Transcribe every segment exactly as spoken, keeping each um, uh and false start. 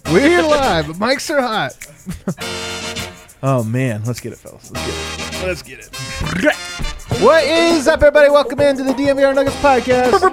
We're live. The mics are hot. Oh, man. Let's get it, fellas. Let's get it. Let's get it. What is up, everybody? Welcome into the D N V R Nuggets podcast. Let's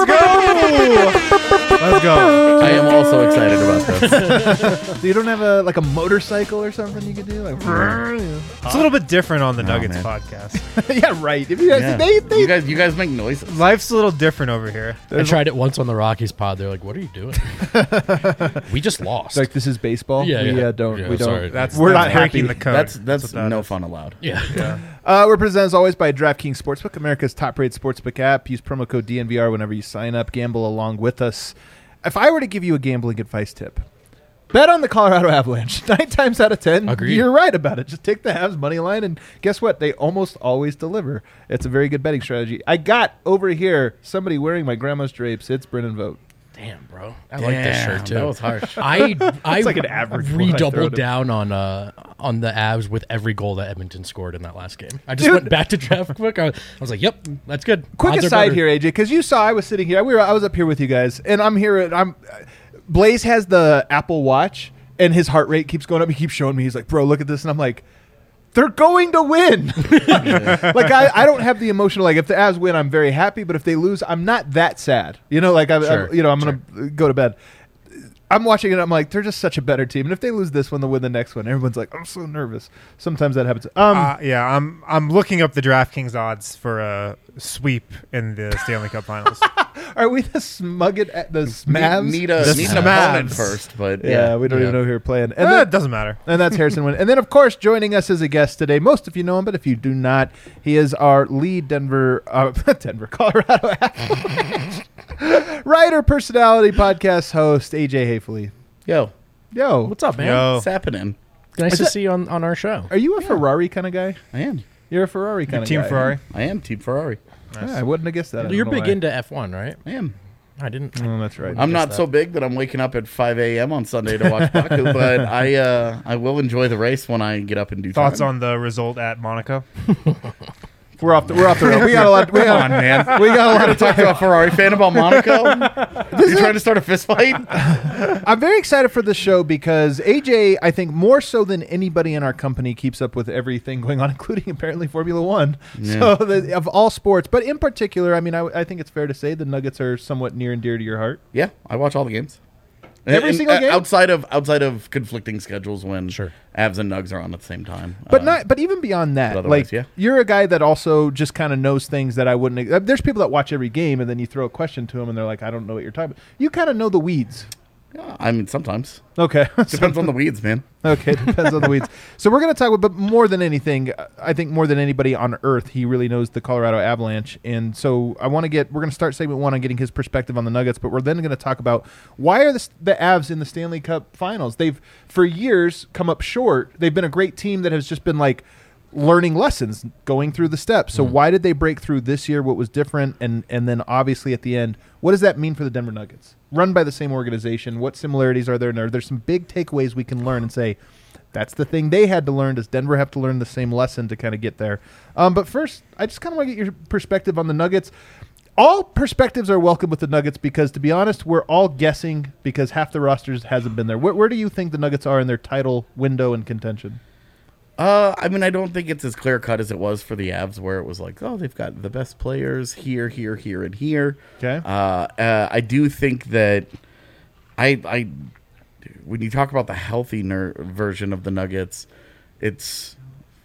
go. Let's go. I am also excited about this. So you don't have a like a motorcycle or something you could do? Like, it's a little bit different on the Oh, Nuggets man. podcast. yeah, right. If you guys, Yeah. they, they, you guys, you guys make noises. Life's a little different over here. I tried it once on the Rockies pod. They're like, "What are you doing? We just lost." like this is baseball. Yeah, we yeah. uh, don't. Yeah, we don't. sorry. That's We're that's not breaking happy. the code. That's that's, what that no is. fun allowed. yeah. Yeah. Uh, we're presented as always by DraftKings Sportsbook, America's top-rated sportsbook app. Use promo code D N V R whenever you sign up. Gamble along with us. If I were to give you a gambling advice tip, bet on the Colorado Avalanche. Nine times out of ten, Agreed. you're right about it. Just take the Avs money line, and guess what? They almost always deliver. It's a very good betting strategy. I got over here somebody wearing my grandma's drapes. It's Brennan Vogt. Damn, bro. I like this Damn, shirt too. that was harsh. I I It's like an average one I throw redoubled it. down on uh on the Avs with every goal that Edmonton scored in that last game. I just Dude. went back to draft quick. I was, I was like, "Yep, that's good." Quick Odds are aside better. here, A J, because you saw I was sitting here. We were, I was up here with you guys, and I'm here. And I'm Blaze has the Apple Watch, and his heart rate keeps going up. He keeps showing me. He's like, "Bro, look at this," and I'm like, "They're going to win." Like I, I don't have the emotional. Like if the Avs win, I'm very happy. But if they lose, I'm not that sad. You know, like I, Sure, I you know, I'm gonna go to bed. I'm watching it. I'm like, they're just such a better team. And if they lose this one, they'll win the next one. Everyone's like, I'm so nervous. Sometimes that happens. Um, Uh, yeah, I'm I'm looking up the DraftKings odds for a sweep in the Stanley Cup Finals. are we the smug it at the Smavs? Need, need, a, The need an opponent Smavs. first, but yeah, yeah, we don't yeah. even know who we're playing. And Eh, then, it doesn't matter. And that's Harrison Wynn. And then, of course, joining us as a guest today, most of you know him, but if you do not, he is our lead Denver, uh, Denver, Colorado writer, personality, podcast host, A J Hayfley. Yo, Yo, What's up, man? Yo. what's happening? Nice Is to that- see you on, on our show. are you a Ferrari kind of guy? I am. You're a Ferrari kind of Team guy. Ferrari. I am Team Ferrari. Nice. Yeah, I wouldn't have guessed that. I You're don't know big why. into F one, right? I am. I didn't. Oh, that's right. I'm not that. so big that I'm waking up at five a.m. on Sunday to watch Baku, but I uh, I will enjoy the race when I get up and do Thoughts time. on the result at Monaco? We're off the we're off the road. We got a lot. We Come got, on, man. we got a lot Gotta of talk to a Ferrari fan about Monaco. You trying to start a fist fight? I'm very excited for this show because A J, I think more so than anybody in our company, keeps up with everything going on, including apparently Formula One. Yeah. So the, of all sports, but in particular, I mean, I, I think it's fair to say the Nuggets are somewhat near and dear to your heart. Yeah, I watch all the games. Every And- single uh, game? outside of outside of conflicting schedules when Sure. Avs and Nugs are on at the same time. But Uh, not, but even beyond that, but otherwise, like yeah. you're a guy that also just kind of knows things that I wouldn't. Uh, there's people that watch every game, and then you throw a question to them, and they're like, "I don't know what you're talking about." You kind of know the weeds. yeah, I mean, sometimes Okay, depends on the weeds, man. Okay, depends on the weeds. So we're going to talk about, but more than anything, I think more than anybody on earth, he really knows the Colorado Avalanche. And so I want to get, we're going to start segment one on getting his perspective on the Nuggets, but we're then going to talk about why are the, the Avs in the Stanley Cup Finals? They've, for years, come up short. They've been a great team that has just been like learning lessons, going through the steps. So why did they break through this year? What was different? And, and then obviously at the end, what does that mean for the Denver Nuggets? Run by the same organization. What similarities are there? And are there some big takeaways we can learn and say, that's the thing they had to learn. Does Denver have to learn the same lesson to kind of get there? Um, but first, I just kind of want to get your perspective on the Nuggets. All perspectives are welcome with the Nuggets because, to be honest, we're all guessing because half the rosters hasn't been there. Where, where do you think the Nuggets are in their title window and contention? Uh, I mean, I don't think it's as clear cut as it was for the Avs, where it was like, oh, they've got the best players here, here, here, and here. Okay. Uh, uh I do think that I, I, when you talk about the healthy ner- version of the Nuggets, it's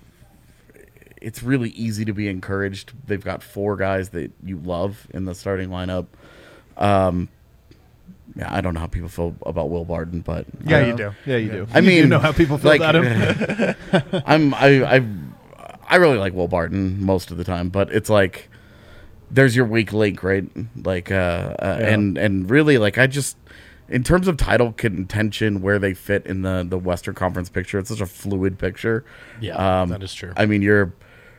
it's really easy to be encouraged. They've got four guys that you love in the starting lineup. Um, yeah, I don't know how people feel about Will Barton, but Yeah, Uh, you do. Yeah, you do. I You mean, do know how people feel like, about him. I'm I I I really like Will Barton most of the time, but it's like there's your weak link, right? Like, uh, uh Yeah. and and really, like, I just in terms of title contention, where they fit in the the Western Conference picture, it's such a fluid picture. Yeah, Um, that is true. I mean, you're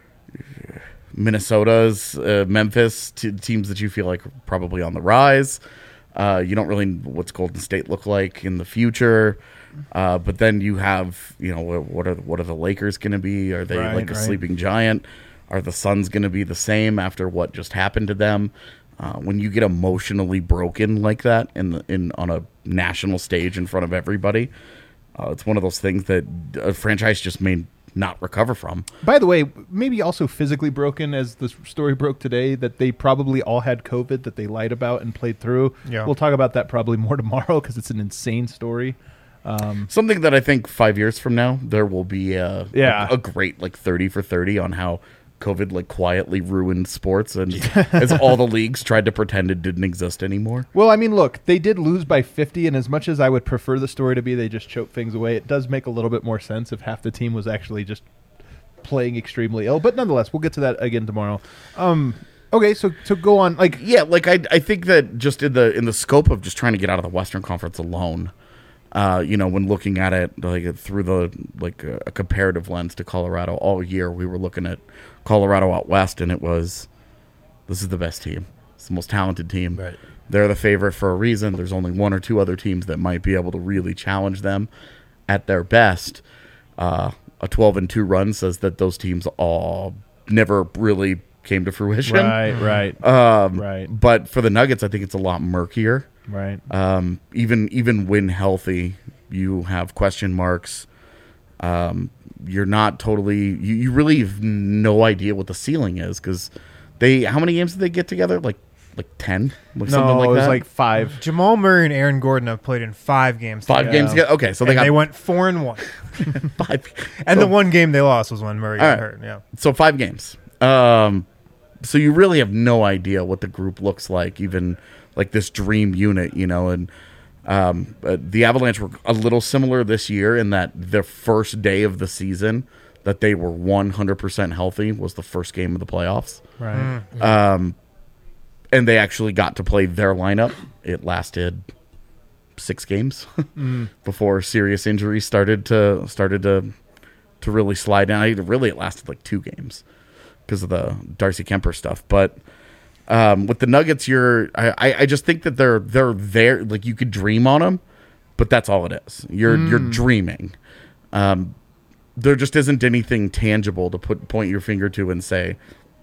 Minnesota's, uh, Memphis, t- teams that you feel like are probably on the rise. Uh, you don't really know what's Golden State look like in the future. Uh, but then you have, you know, what, what are what are the Lakers going to be? Are they Right, like a right. sleeping giant? Are the Suns going to be the same after what just happened to them? uh, when you get emotionally broken like that in the, in on a national stage in front of everybody, uh, it's one of those things that a franchise just may not recover from. By the way, maybe also physically broken, as the story broke today, that they probably all had COVID that they lied about and played through. Yeah. We'll talk about that probably more tomorrow because it's an insane story. Um, Something that I think five years from now there will be a, Yeah. a, a great like thirty for thirty on how COVID like quietly ruined sports and as all the leagues tried to pretend it didn't exist anymore. well, I mean, look, they did lose by fifty, and as much as I would prefer the story to be they just choked things away, it does make a little bit more sense if half the team was actually just playing extremely ill. But nonetheless, we'll get to that again tomorrow. Um, okay, so to go on, like, Yeah, like I I think that just in the in the scope of just trying to get out of the Western Conference alone, uh, you know, when looking at it like through the like a, a comparative lens to Colorado all year, we were looking at Colorado out west, and it was this is the best team. It's the most talented team. Right. They're the favorite for a reason. There's only one or two other teams that might be able to really challenge them at their best. Uh, a twelve and two run says that those teams all never really came to fruition. right, right, Um, Right. But for the Nuggets, I think it's a lot murkier. right. Um, even even when healthy, you have question marks. Um, you're not totally. You, you really have no idea what the ceiling is because they. How many games did they get together? Like like ten, like No, something like it was that. like five. Jamal Murray and Aaron Gordon have played in five games. five together. games together. Okay, so they And got they went four and one. five. And so, the one game they lost was when Murray All got right. hurt. Yeah. so five games. Um, so you really have no idea what the group looks like, even like this dream unit, you know. And um, uh, the Avalanche were a little similar this year in that the first day of the season that they were one hundred percent healthy was the first game of the playoffs. Right. Um, and they actually got to play their lineup. It lasted six games before serious injuries started to started to to really slide down. I, really, it lasted like two games because of the Darcy Kemper stuff. But um, with the Nuggets, you're I, I I just think that they're they're there. Like you could dream on them, but that's all it is. You're you're dreaming. Um, there just isn't anything tangible to put point your finger to and say,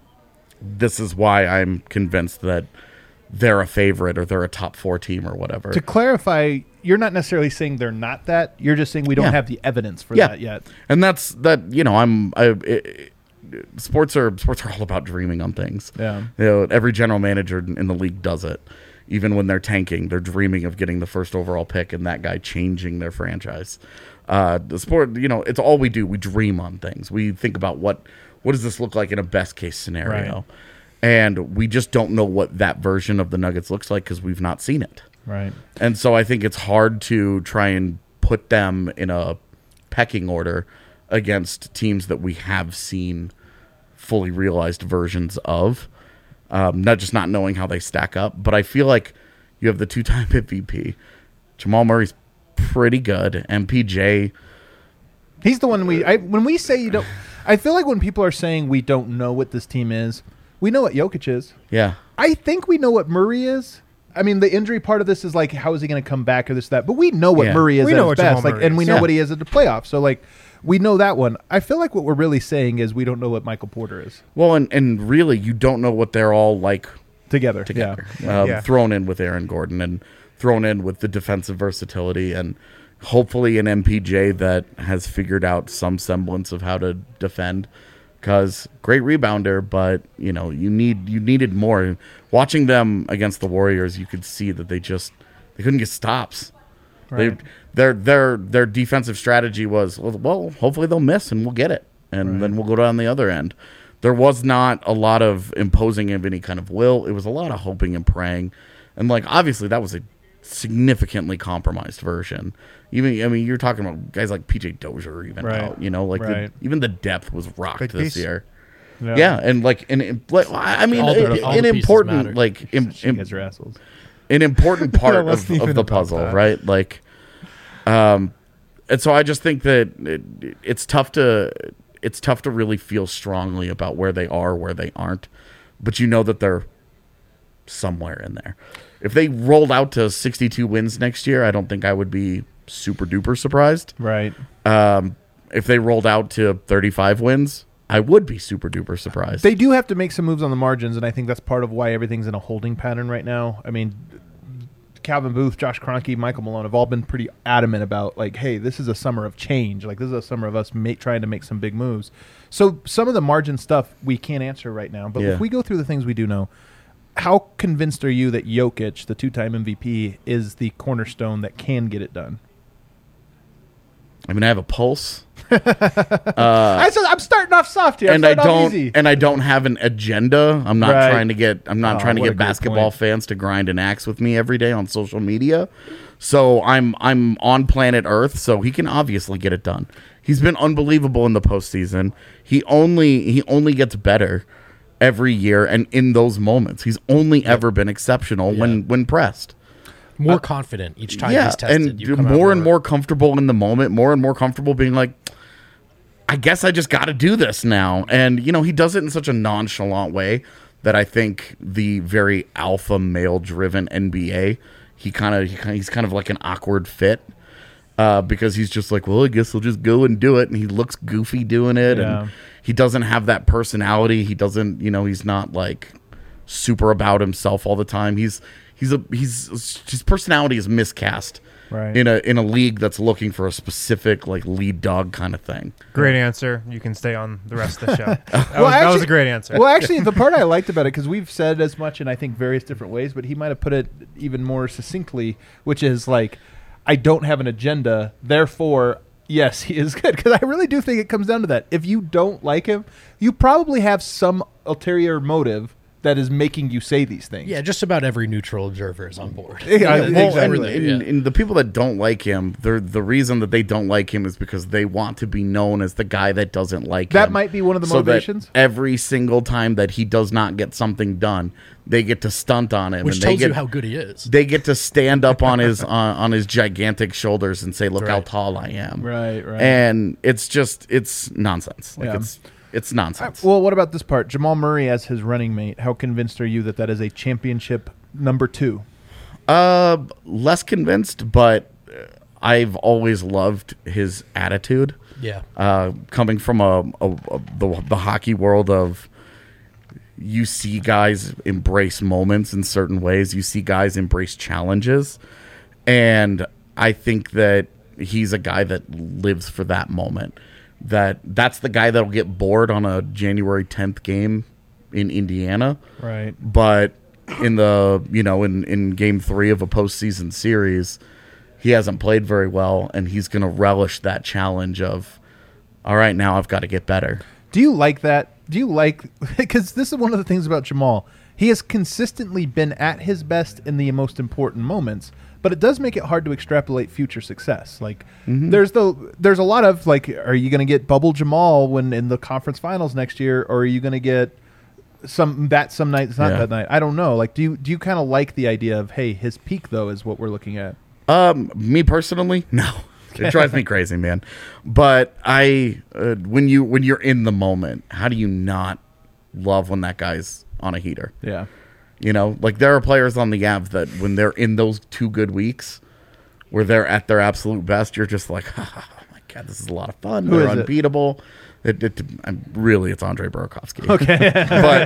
this is why I'm convinced that they're a favorite or they're a top four team or whatever. To clarify, you're not necessarily saying they're not that. You're just saying we don't Yeah. have the evidence for Yeah. that yet. And that's that. You know, I'm. I, it, sports are sports are all about dreaming on things. Yeah. You know, every general manager in the league does it. Even when they're tanking, they're dreaming of getting the first overall pick and that guy changing their franchise. Uh, the sport, you know, it's all we do. We dream on things. We think about what what does this look like in a best case scenario, Right. and we just don't know what that version of the Nuggets looks like because we've not seen it. Right. And so I think it's hard to try and put them in a pecking order against teams that we have seen fully realized versions of. Um, not just not knowing how they stack up, but I feel like you have the two-time M V P. Jamal Murray's pretty good. M P J, He's the one we. I, when we say you don't, I feel like when people are saying we don't know what this team is, we know what Jokic is. yeah. I think we know what Murray is. I mean, the injury part of this is like, how is he going to come back or this, that? But we know what Yeah. Murray is We at know his what Jamal best. Like, Murray and we is. know Yeah. what he is at the playoffs. So, like, we know that one. I feel like what we're really saying is we don't know what Michael Porter is Well, and, and really, you don't know what they're all like together. together. Yeah. Um, Yeah. Thrown in with Aaron Gordon and thrown in with the defensive versatility and hopefully an M P J that has figured out some semblance of how to defend. Because great rebounder, but you know you need you needed more. Watching them against the Warriors, you could see that they just they couldn't get stops. Right. They their their their defensive strategy was well, well, hopefully they'll miss and we'll get it, and Right. then we'll go down the other end. There was not a lot of imposing of any kind of will. It was a lot of hoping and praying, and like obviously that was a significantly compromised version. Even I mean you're talking about guys like P J Dozier even Right. out, you know, like Right. the, even the depth was rocked Big this piece. year. Yeah. Yeah, and like and it- like I mean All the- it- all an the pieces important matter. like im, You im- guys are assholes. an important part It of, wasn't of even the about puzzle, that. right? Like, um, and so I just think that it, it's tough to it's tough to really feel strongly about where they are, where they aren't, but you know that they're somewhere in there. If they rolled out to sixty-two wins next year, I don't think I would be super duper surprised. Right. Um, if they rolled out to thirty-five wins, I would be super duper surprised. They do have to make some moves on the margins, and I think that's part of why everything's in a holding pattern right now. I mean, Calvin Booth, Josh Kroenke, Michael Malone have all been pretty adamant about, like, hey, this is a summer of change. Like, this is a summer of us ma- trying to make some big moves. So some of the margin stuff we can't answer right now. But Yeah. if we go through the things we do know, how convinced are you that Jokic, the two-time M V P, is the cornerstone that can get it done? I mean, I have a pulse. I said, I'm starting off soft here. I'm and I starting off don't easy. and I don't have an agenda. I'm not Right. trying to get I'm not Oh, trying to what a get great basketball point. fans to grind an axe with me every day on social media. So I'm I'm on planet Earth, so he can obviously get it done. He's been unbelievable in the postseason. He only he only gets better every year, and in those moments, he's only ever been exceptional when when pressed. More confident each time yeah, he's tested. and You come out more and more comfortable in the moment, more and more comfortable being like, I guess I just got to do this now. And, you know, he does it in such a nonchalant way that I think the very alpha male driven N B A, he kind of, he he's kind of like an awkward fit uh, because he's just like, well, I guess I'll just go and do it. And he looks goofy doing it. Yeah. And he doesn't have that personality. He doesn't, you know, he's not like super about himself all the time. He's, he's a, he's, his personality is miscast. Right. In a in a league that's looking for a specific like lead dog kind of thing. Great answer. You can stay on the rest of the show. That, Well, was, that was actually- a great answer. Well, actually, the part I liked about it, because we've said as much in, I think, various different ways, but he might have put it even more succinctly, which is like, I don't have an agenda, therefore, yes, he is good. Because I really do think it comes down to that. If you don't like him, you probably have some ulterior motive that is making you say these things. Yeah, just about every neutral observer is on board. Yeah, Yeah, well, exactly. and, and, and the people that don't like him, they're the reason that they don't like him is because they want to be known as the guy that doesn't like That him. might be one of the So that motivations. every single time that he does not get something done, they get to stunt on him, Which and they tells get you how good he is. they get to stand up on his on, on his gigantic shoulders and say, "Look how Right. tall I am." Right, right. And it's just it's nonsense. Like Yeah. it's it's nonsense. Well, what about this part? Jamal Murray as his running mate. How convinced are you that that is a championship number two? Uh, less convinced, but uh, I've always loved his attitude. Yeah. Uh, coming from a, a, a the, the hockey world of, you see guys embrace moments in certain ways. You see guys embrace challenges, and I think that he's a guy that lives for that moment. That that's the guy that'll get bored on a January tenth game in Indiana. Right. But in the you know in, in game three of a postseason series, he hasn't played very well, and he's going to relish that challenge of, all right, now I've got to get better. Do you like that? Do you like, because this is one of the things about Jamal. He has consistently been at his best in the most important moments, but it does make it hard to extrapolate future success. Like there's the there's a lot of like, are you going to get bubble Jamal when in the conference finals next year, or are you going to get some that some nights not Yeah. that night? I don't know. Like, do you do you kind of like the idea of, hey, his peak though is what we're looking at? Um, me personally, no. It drives me crazy, man. But I, uh, when you when you're in the moment, how do you not love when that guy's on a heater? Yeah. You know, like there are players on the Avs that when they're in those two good weeks, where they're at their absolute best, you're just like, oh my god, this is a lot of fun. Who they're is it? unbeatable. It, it, I'm really, it's Andre Burakovsky. Okay, but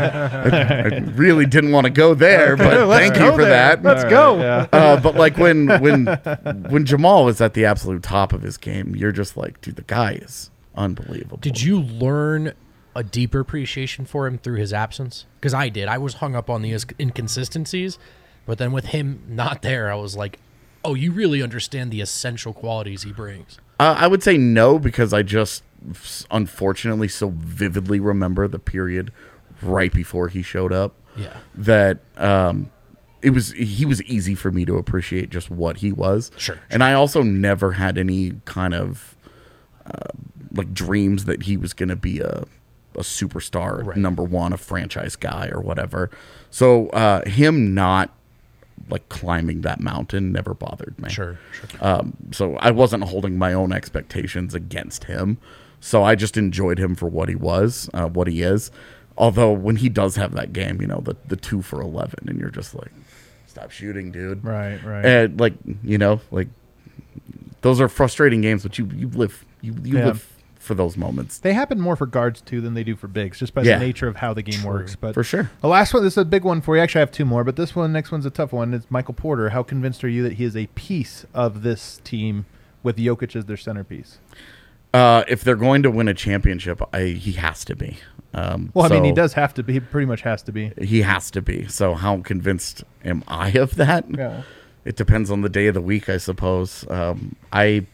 I, I really didn't want to go there. But Let's thank go you for there. that. Let's go. Yeah. Uh, but like when when when Jamal was at the absolute top of his game, you're just like, dude, the guy is unbelievable. Did you learn a deeper appreciation for him through his absence? Because I did. I was hung up on the is- inconsistencies, but then with him not there, I was like, oh, you really understand the essential qualities he brings. Uh, I would say no, because I just unfortunately so vividly remember the period right before he showed up. Yeah. That um, it was he was easy for me to appreciate just what he was. Sure, And I also never had any kind of uh, like dreams that he was going to be a a superstar, Right. number one, a franchise guy or whatever. So uh, him not like climbing that mountain never bothered me. Sure, sure. Um, so I wasn't holding my own expectations against him. So I just enjoyed him for what he was, uh, what he is. Although when he does have that game, you know, the, the two for eleven, and you're just like, stop shooting, dude. Right. Right. And like, you know, like those are frustrating games, but you, you live, you, you Yeah. live for those moments. They happen more for guards too than they do for bigs, just by Yeah. the nature of how the game works. But For sure. the last one, this is a big one for you. Actually, I have two more, but this one, next one's a tough one. It's Michael Porter. How convinced are you that he is a piece of this team with Jokic as their centerpiece? Uh, if they're going to win a championship, I, he has to be. Um, Well, I mean, he so does have to be. He pretty much has to be. He has to be. So how convinced am I of that? Yeah. It depends on the day of the week, I suppose. Um, I,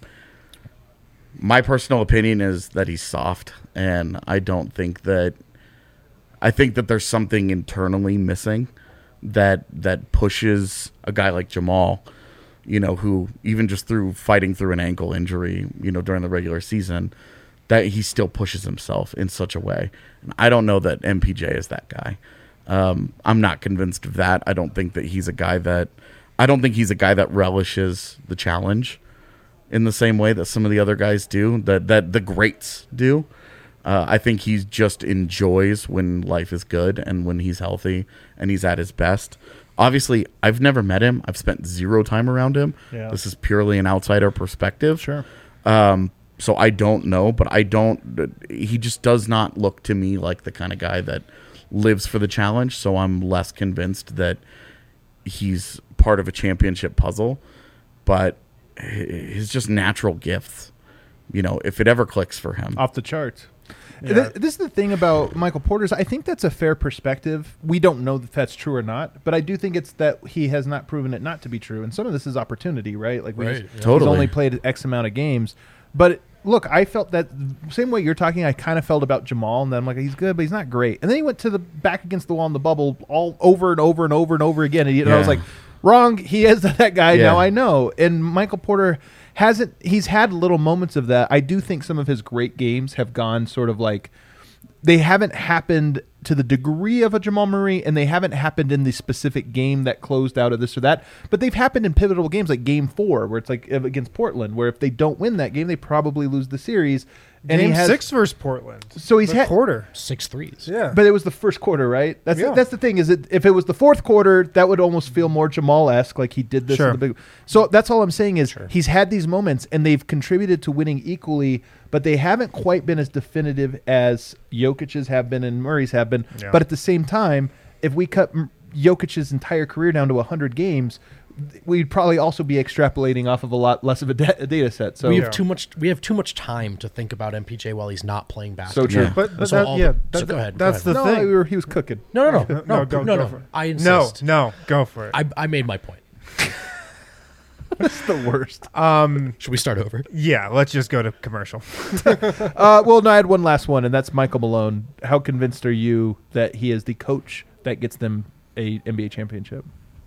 my personal opinion is that he's soft, and I don't think that. I think that there's something internally missing that that pushes a guy like Jamal, you know, who even just through fighting through an ankle injury, you know, during the regular season, that he still pushes himself in such a way. And I don't know that M P J is that guy. Um, I'm not convinced of that. I don't think that he's a guy that. I don't think he's a guy that relishes the challenge in the same way that some of the other guys do, that that the greats do. Uh, I think he just enjoys when life is good and when he's healthy and he's at his best. Obviously, I've never met him. I've spent zero time around him. Yeah. This is purely an outsider perspective. Sure. Um, so I don't know, but I don't. He just does not look to me like the kind of guy that lives for the challenge. So I'm less convinced that he's part of a championship puzzle. But his just natural gifts, you know, if it ever clicks for him, Off the charts. Yeah. Th- This is the thing about Michael Porter's. I think that's a fair perspective. We don't know if that's true or not, but I do think it's that he has not proven it not to be true. And some of this is opportunity, right? Like we Right, just, yeah. he's Totally. only played X amount of games. But look, I felt that same way you're talking. I kind of felt about Jamal, and then I'm like, he's good, but he's not great. And then he went to the back against the wall in the bubble all over and over and over and over again. And, he- and I was Yeah. like, wrong. He is that guy. Yeah. Now I know. And Michael Porter hasn't. He's had little moments of that. I do think some of his great games have gone sort of like. They haven't happened to the degree of a Jamal Murray, and they haven't happened in the specific game that closed out of this or that. But they've happened in pivotal games like Game Four, where it's like against Portland, where if they don't win that game, they probably lose the series. And Game he has, six versus Portland. So he's The had- quarter. Six threes. Yeah. But it was the first quarter, right? That's Yeah. that's the thing. Is it if it was the fourth quarter, that would almost feel more Jamal-esque, like he did this. Sure. In the big. So that's all I'm saying is he's had these moments, and they've contributed to winning equally, but they haven't quite been as definitive as Jokic's have been and Murray's have been. Yeah. But at the same time, if we cut M- Jokic's entire career down to one hundred games, we'd probably also be extrapolating off of a lot less of a, da- a data set. So we have Yeah. too much. We have too much time to think about M P J while he's not playing basketball. true. Yeah. But, but So that, all yeah, the- that, so go ahead, that's go the no, thing. we were, he was cooking. No, no, no, no, No, no, go- no, go no. for it. I No, insist. no, go for it. I, I made my point. That's the worst. um, Should we start over? yeah, let's just go to commercial. Uh, well, no, I had one last one, and that's Michael Malone. How convinced are you that he is the coach that gets them a N B A championship?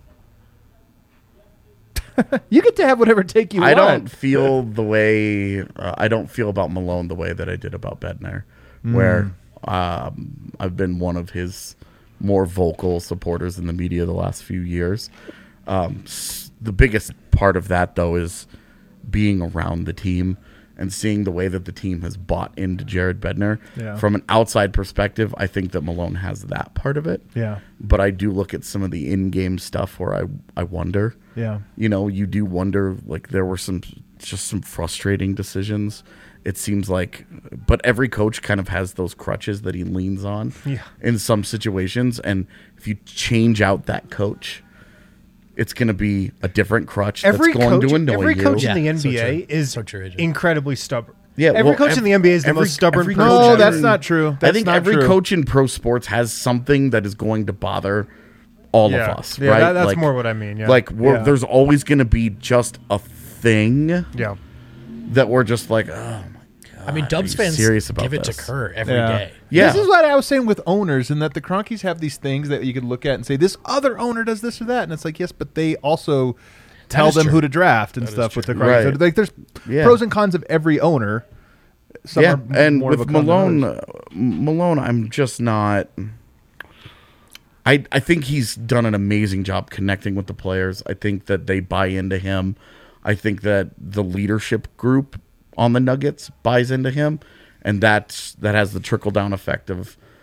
You get to have whatever take you I want. don't feel the way uh, I don't feel about Malone the way that I did about Bednar, where um, I've been one of his more vocal supporters in the media the last few years. Um, s- the biggest part of that, though, is being around the team and seeing the way that the team has bought into Jared Bednar. Yeah. From an outside perspective, I think that Malone has that part of it. Yeah, But I do look at some of the in-game stuff where I I wonder. yeah. You know, you do wonder, like, there were some just some frustrating decisions. It seems like, but every coach kind of has those crutches that he leans on Yeah. in some situations. And if you change out that coach, it's going to be a different crutch Every that's going coach, to annoy every you. coach Yeah, in the so N B A true. is So true, A J. incredibly stubborn. Yeah, every well, coach ev- in the N B A is the every- most stubborn every person. coach No, in- that's not true. That's I think not every true. coach in pro sports has something that is going to bother all Yeah. of us, Yeah, right? that- that's Like- more what I mean, yeah. Like, we're, Yeah. there's always going to be just a thing Yeah. that we're just like, oh my god. I mean, Dubs are you fans serious about give it this? to Kerr every day. Yeah. This is what I was saying with owners, and that the Cronkies have these things that you could look at and say, this other owner does this or that. And it's like, yes, but they also tell is them true. who to draft and That is stuff with the true. Cronkies. Right. Like, there's Yeah. pros and cons of every owner. Some yeah, are m- and more of with a con than Malone, others. uh, Malone, I'm just not. I I think he's done an amazing job connecting with the players. I think that they buy into him. I think that the leadership group on the Nuggets buys into him, and that's that has the trickle down effect of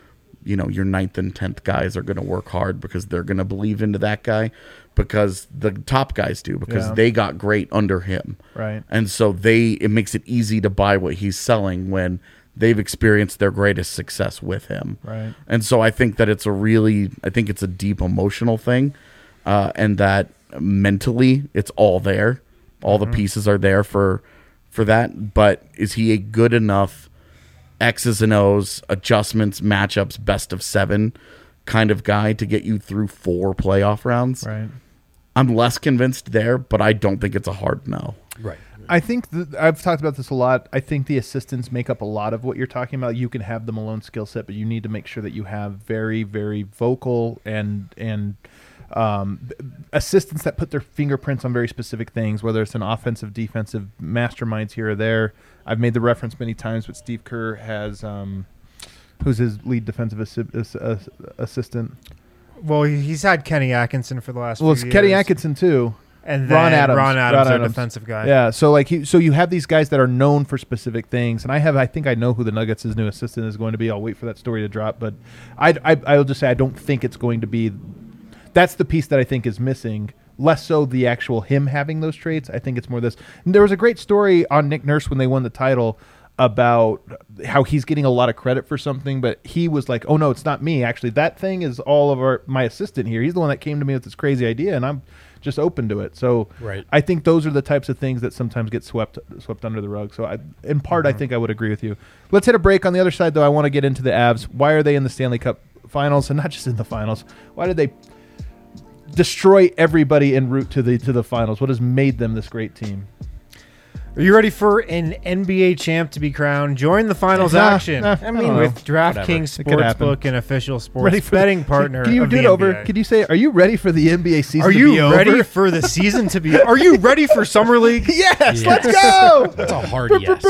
you know, your ninth and tenth guys are going to work hard because they're going to believe into that guy, because the top guys do, because Yeah. they got great under him. Right. And so they, it makes it easy to buy what he's selling when they've experienced their greatest success with him. Right. And so I think that it's a really, I think it's a deep emotional thing, uh, and that mentally it's all there. All Mm-hmm. the pieces are there for, for that. But is he a good enough X's and O's, adjustments, matchups, best of seven kind of guy to get you through four playoff rounds? Right. I'm less convinced there, but I don't think it's a hard no. Right. I think th- I've talked about this a lot. I think the assistants make up a lot of what you're talking about. You can have the Malone skill set, but you need to make sure that you have very, very vocal and and um, b- assistants that put their fingerprints on very specific things, whether it's an offensive, defensive masterminds here or there. I've made the reference many times, but Steve Kerr has, um, who's his lead defensive assi- ass- ass- assistant? Well, he- he's had Kenny Atkinson for the last Well, it's few Kenny years. Atkinson too. And then Ron Adams. Ron Adams, Ron our Adams. defensive guy. Yeah, so like he, so you have these guys that are known for specific things, and I have I think I know who the Nuggets' new assistant is going to be. I'll wait for that story to drop, but I I I'll just say I don't think it's going to be. That's the piece that I think is missing. Less so the actual him having those traits. I think it's more this. And there was a great story on Nick Nurse when they won the title about how he's getting a lot of credit for something, but he was like, "Oh no, it's not me. Actually, that thing is all of our my assistant here. He's the one that came to me with this crazy idea, and I'm just open to it." So Right. I think those are the types of things that sometimes get swept swept under the rug. So I, in part, I think I would agree with you. Let's hit a break. On the other side, though, I want to get into the Avs. Why are they in the Stanley Cup Finals, and not just in the finals? Why did they destroy everybody en route to the to the finals? What has made them this great team? Are you ready for an N B A champ to be crowned? Join the finals Nah, action. nah, I I mean, don't with know. DraftKings It could happen. Sportsbook, an official sports Ready for betting the, partner. Can you of do the it over? N B A. Could you say, "Are you ready for the N B A season Are to you be ready over?" for the season to be? Are you ready for summer league? Yes, Yes. let's go. That's a hard yes.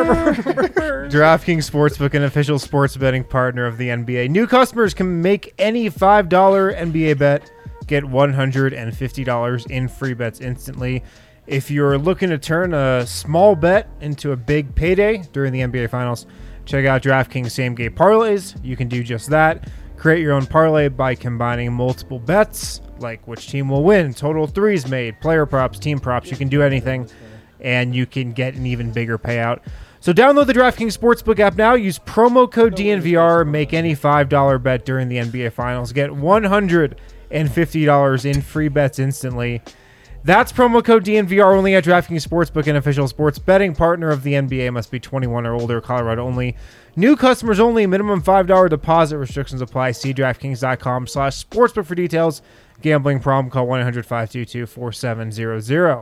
DraftKings Sportsbook, an official sports betting partner of the N B A. New customers can make any five dollar N B A bet, get one hundred fifty dollars in free bets instantly. If you're looking to turn a small bet into a big payday during the N B A Finals, check out DraftKings Same Game Parlays. You can do just that. Create your own parlay by combining multiple bets, like which team will win, total threes made, player props, team props. You can do anything, and you can get an even bigger payout. So download the DraftKings Sportsbook app now. Use promo code D N V R. Make any five dollar bet during the N B A Finals. Get one hundred fifty dollars in free bets instantly. That's promo code D N V R only at DraftKings Sportsbook, an official sports betting partner of the N B A. Must be twenty-one or older, Colorado only. New customers only. Minimum five dollar deposit. Restrictions apply. See DraftKings.com slash sportsbook for details. Gambling problem, call one eight hundred five two two four seven zero zero.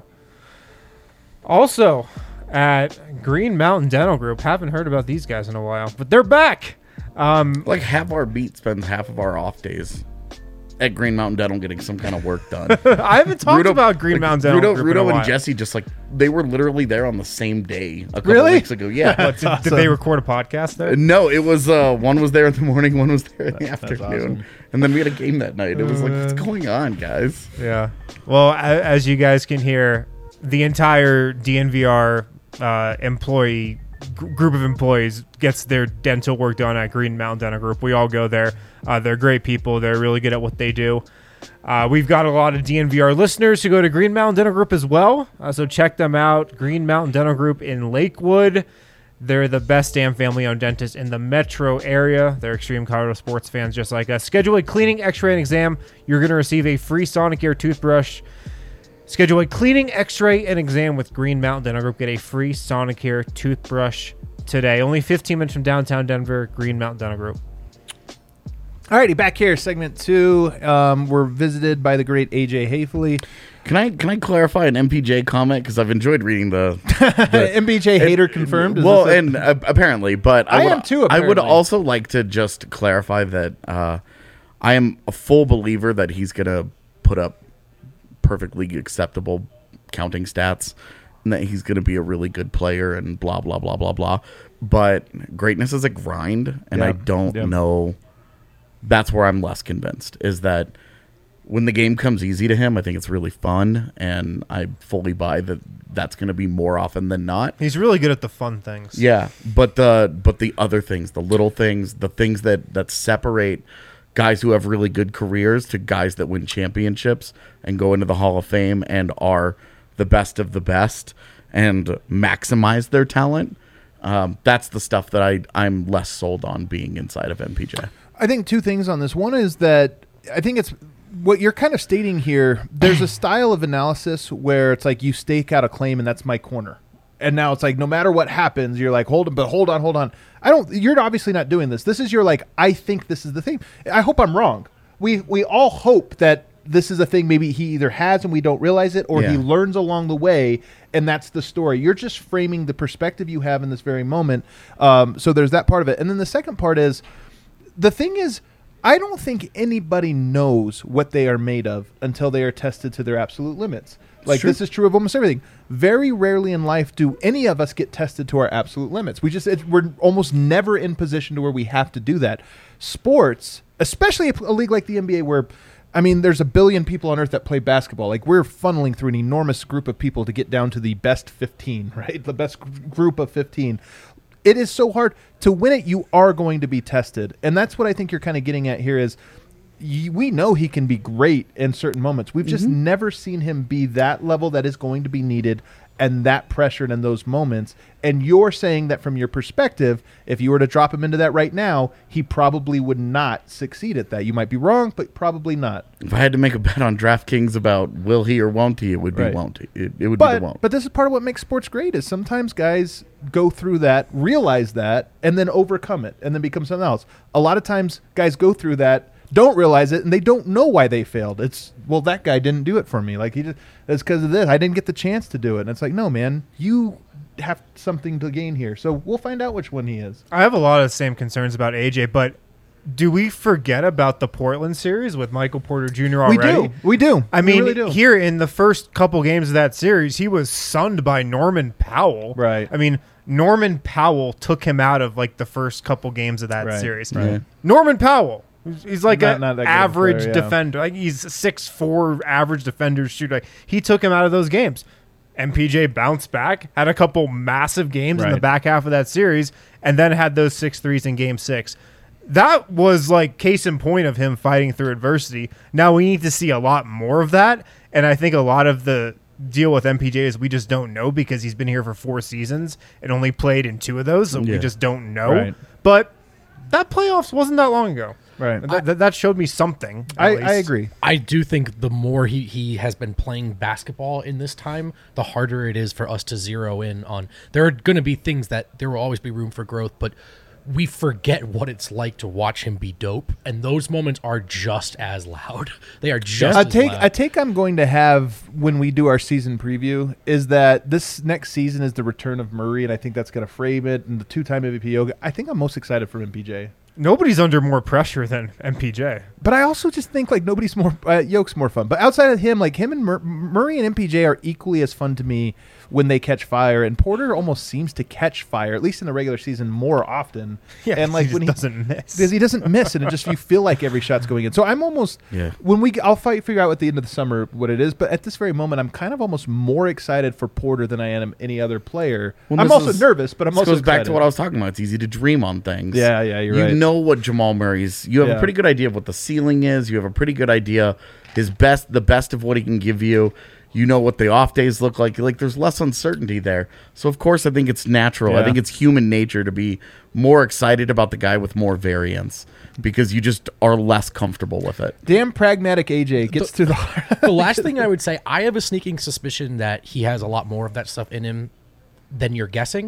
Also, at Green Mountain Dental Group, haven't heard about these guys in a while, but they're back. Um, Like half our beat spends half of our off days at Green Mountain Dental getting some kind of work done. I haven't talked Rudo- about Green like, Mountain Dental Rudo, Group in a Rudo while. and Jesse just like they were literally there on the same day a couple Really? weeks ago. Yeah. What, did, did they record a podcast there? No, it was uh, one was there in the morning, one was there in the That's afternoon, awesome. and then we had a game that night. It was like, what's Uh, going on, guys? Yeah. Well, a- as you guys can hear, the entire D N V R uh, employee gr- group of employees gets their dental work done at Green Mountain Dental Group. We all go there. Uh, they're great people. They're really good at what they do. Uh, we've got a lot of D N V R listeners who go to Green Mountain Dental Group as well. Uh, so check them out. Green Mountain Dental Group in Lakewood. They're the best damn family-owned dentist in the metro area. They're extreme Colorado sports fans just like us. Schedule a cleaning, x-ray, and exam. You're going to receive a free Sonicare toothbrush. Schedule a cleaning, x-ray, and exam with Green Mountain Dental Group. Get a free Sonicare toothbrush today. Only fifteen minutes from downtown Denver, Green Mountain Dental Group. Alrighty, back here, segment two. Um, we're visited by the great A J Hayfley. Can I can I clarify an M P J comment because I've enjoyed reading the, the M B J hater confirmed. Is well, this a- and uh, apparently, but I, I would, am too, I would apparently. also like to just clarify that uh, I am a full believer that he's gonna put up perfectly acceptable counting stats, and that he's gonna be a really good player, and blah blah blah blah blah. But greatness is a grind, and Yeah. I don't Yeah. know. That's where I'm less convinced. Is that when the game comes easy to him, I think it's really fun, and I fully buy that that's going to be more often than not. He's really good at the fun things. Yeah, but the but the other things, the little things, the things that, that separate guys who have really good careers to guys that win championships and go into the Hall of Fame and are the best of the best and maximize their talent, um, that's the stuff that I, I'm less sold on being inside of M P J. I think two things on this. One is that I think it's what you're kind of stating here. There's a style of analysis where it's like you stake out a claim and that's my corner. And now it's like no matter what happens, you're like, hold on, but hold on, hold on. I don't. You're obviously not doing this. This is your like. I think this is the thing. I hope I'm wrong. We we all hope that this is a thing. Maybe he either has and we don't realize it, or Yeah. he learns along the way, and that's the story. You're just framing the perspective you have in this very moment. Um, so there's that part of it, and then the second part is the thing is. I don't think anybody knows what they are made of until they are tested to their absolute limits. Like true. this is true of almost everything. Very rarely in life do any of us get tested to our absolute limits. We just it, we're almost never in position to where we have to do that. Sports, especially a, a league like the N B A, where I mean, there's a billion people on earth that play basketball. Like we're funneling through an enormous group of people to get down to the best fifteen, right? The best g- group of fifteen. It is so hard to win it. You are going to be tested. And that's what I think you're kind of getting at here is y- we know he can be great in certain moments. We've just Mm-hmm. never seen him be that level that is going to be needed and that pressured in those moments. And you're saying that from your perspective, if you were to drop him into that right now, he probably would not succeed at that. You might be wrong, but probably not. If I had to make a bet on DraftKings about will he or won't he, it would be Right. won't he. It, it would be But, the won't. but this is part of what makes sports great is sometimes guys go through that, realize that, and then overcome it, and then become something else. A lot of times guys go through that, don't realize it, and they don't know why they failed. It's, well, that guy didn't do it for me. Like, he just, that's because of this. I didn't get the chance to do it. And it's like, no, man, you have something to gain here. So we'll find out which one he is. I have a lot of the same concerns about A J, but do we forget about the Portland series with Michael Porter Junior already? We do. We do. I We mean, really do. here in the first couple games of that series, he was sunned by Norman Powell. Right. I mean, Norman Powell took him out of like the first couple games of that Right, series. right. Yeah. Norman Powell. He's- He's like Not- an not that good of a average player, yeah. defender. Like he's six four average defender shooter. Like, he took him out of those games. M P J bounced back, had a couple massive games in the Right. back half of that series, and then had those six threes in game six. That was like case in point of him fighting through adversity. Now we need to see a lot more of that, and I think a lot of the deal with M P J is we just don't know because he's been here for four seasons and only played in two of those, so we Yeah. just don't know. Right. But that playoffs wasn't that long ago. Right. That, that, that showed me something. at I, least. I agree. I do think the more he, he has been playing basketball in this time, the harder it is for us to zero in on. There are going to be things that there will always be room for growth, but we forget what it's like to watch him be dope, and those moments are just as loud. They are just a as take loud. a take I'm going to have when we do our season preview is that this next season is the return of Murray, and I think that's going to frame it. And the two-time M V P Yoga. I think I'm most excited for M P J. Nobody's under more pressure than M P J. But I also just think like nobody's more uh, Yoke's more fun. But outside of him, like him and Mur- Murray and M P J are equally as fun to me when they catch fire. And Porter almost seems to catch fire, at least in the regular season, more often. Yeah, and like he when just he doesn't miss. because he doesn't miss, and it just you feel like every shot's going in. So I'm almost Yeah. when we I'll fight figure out at the end of the summer what it is. But at this very moment, I'm kind of almost more excited for Porter than I am any other player. Well, I'm this also is- nervous, but I'm This also goes back excited. to what I was talking about. It's easy to dream on things. Yeah, yeah, you're you right. know what Jamal Murray's. You have Yeah. a pretty good idea of what the ceiling is. You have a pretty good idea his best, the best of what he can give you. You know what the off days look like. Like there's less uncertainty there. So of course I think it's natural. I Yeah. think it's human nature to be more excited about the guy with more variance because you just are less comfortable with it. Damn pragmatic A J gets to the The last thing I would say, I have a sneaking suspicion that he has a lot more of that stuff in him than you're guessing.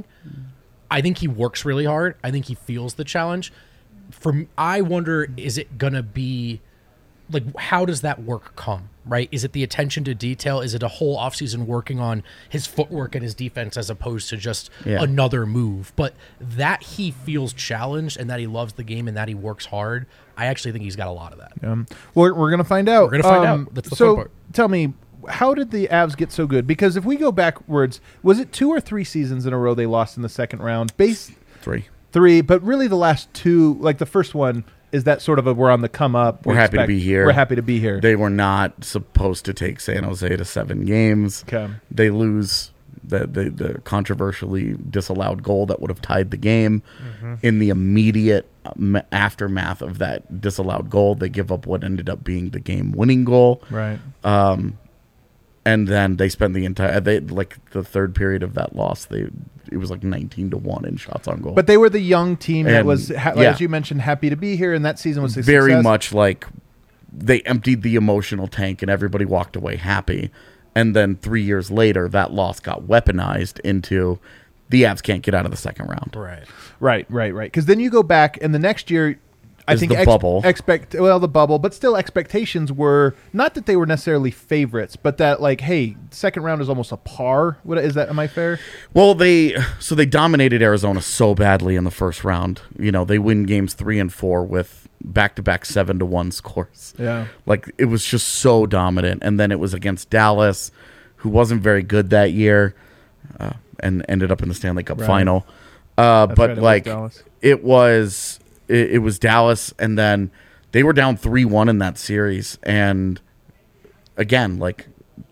I think he works really hard. I think he feels the challenge. From I wonder, is it gonna be like how does that work come? Right? Is it the attention to detail? Is it a whole offseason working on his footwork and his defense as opposed to just Yeah. another move? But that he feels challenged and that he loves the game and that he works hard, I actually think he's got a lot of that. Um, we're we're gonna find out. We're gonna find Um, out. That's the so fun part. tell me, how did the Avs get so good? Because if we go backwards, was it two or three seasons in a row they lost in the second round? Base Three. three, but really the last two, like the first one, is that sort of a we're on the come up? We're we happy to expect- be here. We're happy to be here. They were not supposed to take San Jose to seven games. Okay. They lose the, the, the controversially disallowed goal that would have tied the game. Mm-hmm. In the immediate um, aftermath of that disallowed goal, they give up what ended up being the game-winning goal. Right. Um, and then they spent the entire they like the third period of that loss. They it was like nineteen to one in shots on goal. But they were the young team that And, was, ha- yeah. as you mentioned, happy to be here, and that season was a very success. much like they emptied the emotional tank and everybody walked away happy. And then three years later, that loss got weaponized into the Avs can't get out of the second round. Right. Right, right, right. Because then you go back, and the next year, I Is think the bubble. expect well the bubble, but still expectations were not that they were necessarily favorites, but that like, hey, second round is almost a par. What is that? Am I fair? Well, they so they dominated Arizona so badly in the first round. You know, they win games three and four with back-to-back seven to one scores. Yeah. Like it was just so dominant. And then it was against Dallas, who wasn't very good that year, uh, and ended up in the Stanley Cup Right. final. Uh, That's but right, it was like Dallas. it was it, it was Dallas, and then they were down three one in that series. And again, like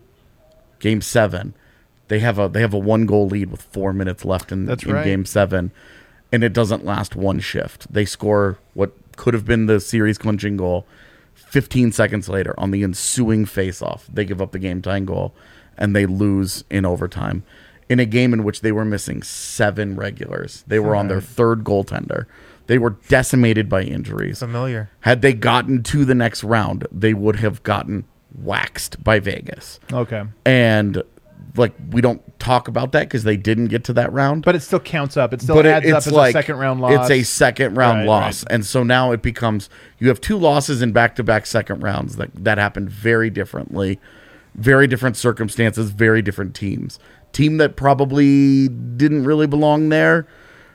game seven, they have a they have a one goal lead with four minutes left in, That's in right. game seven, and it doesn't last one shift. They score what could have been the series clinching goal fifteen seconds later on the ensuing faceoff. They give up the game tying goal, and they lose in overtime in a game in which they were missing seven regulars. They were on their third goaltender. They were decimated by injuries. Familiar. Had they gotten to the next round, they would have gotten waxed by Vegas. Okay. And like we don't talk about that because they didn't get to that round. But it still counts up. It still But it- adds up it's as like a second round loss. It's a second round Right, loss, right. and so now it becomes you have two losses in back to back second rounds that that happened very differently, very different circumstances, very different teams. Team that probably didn't really belong there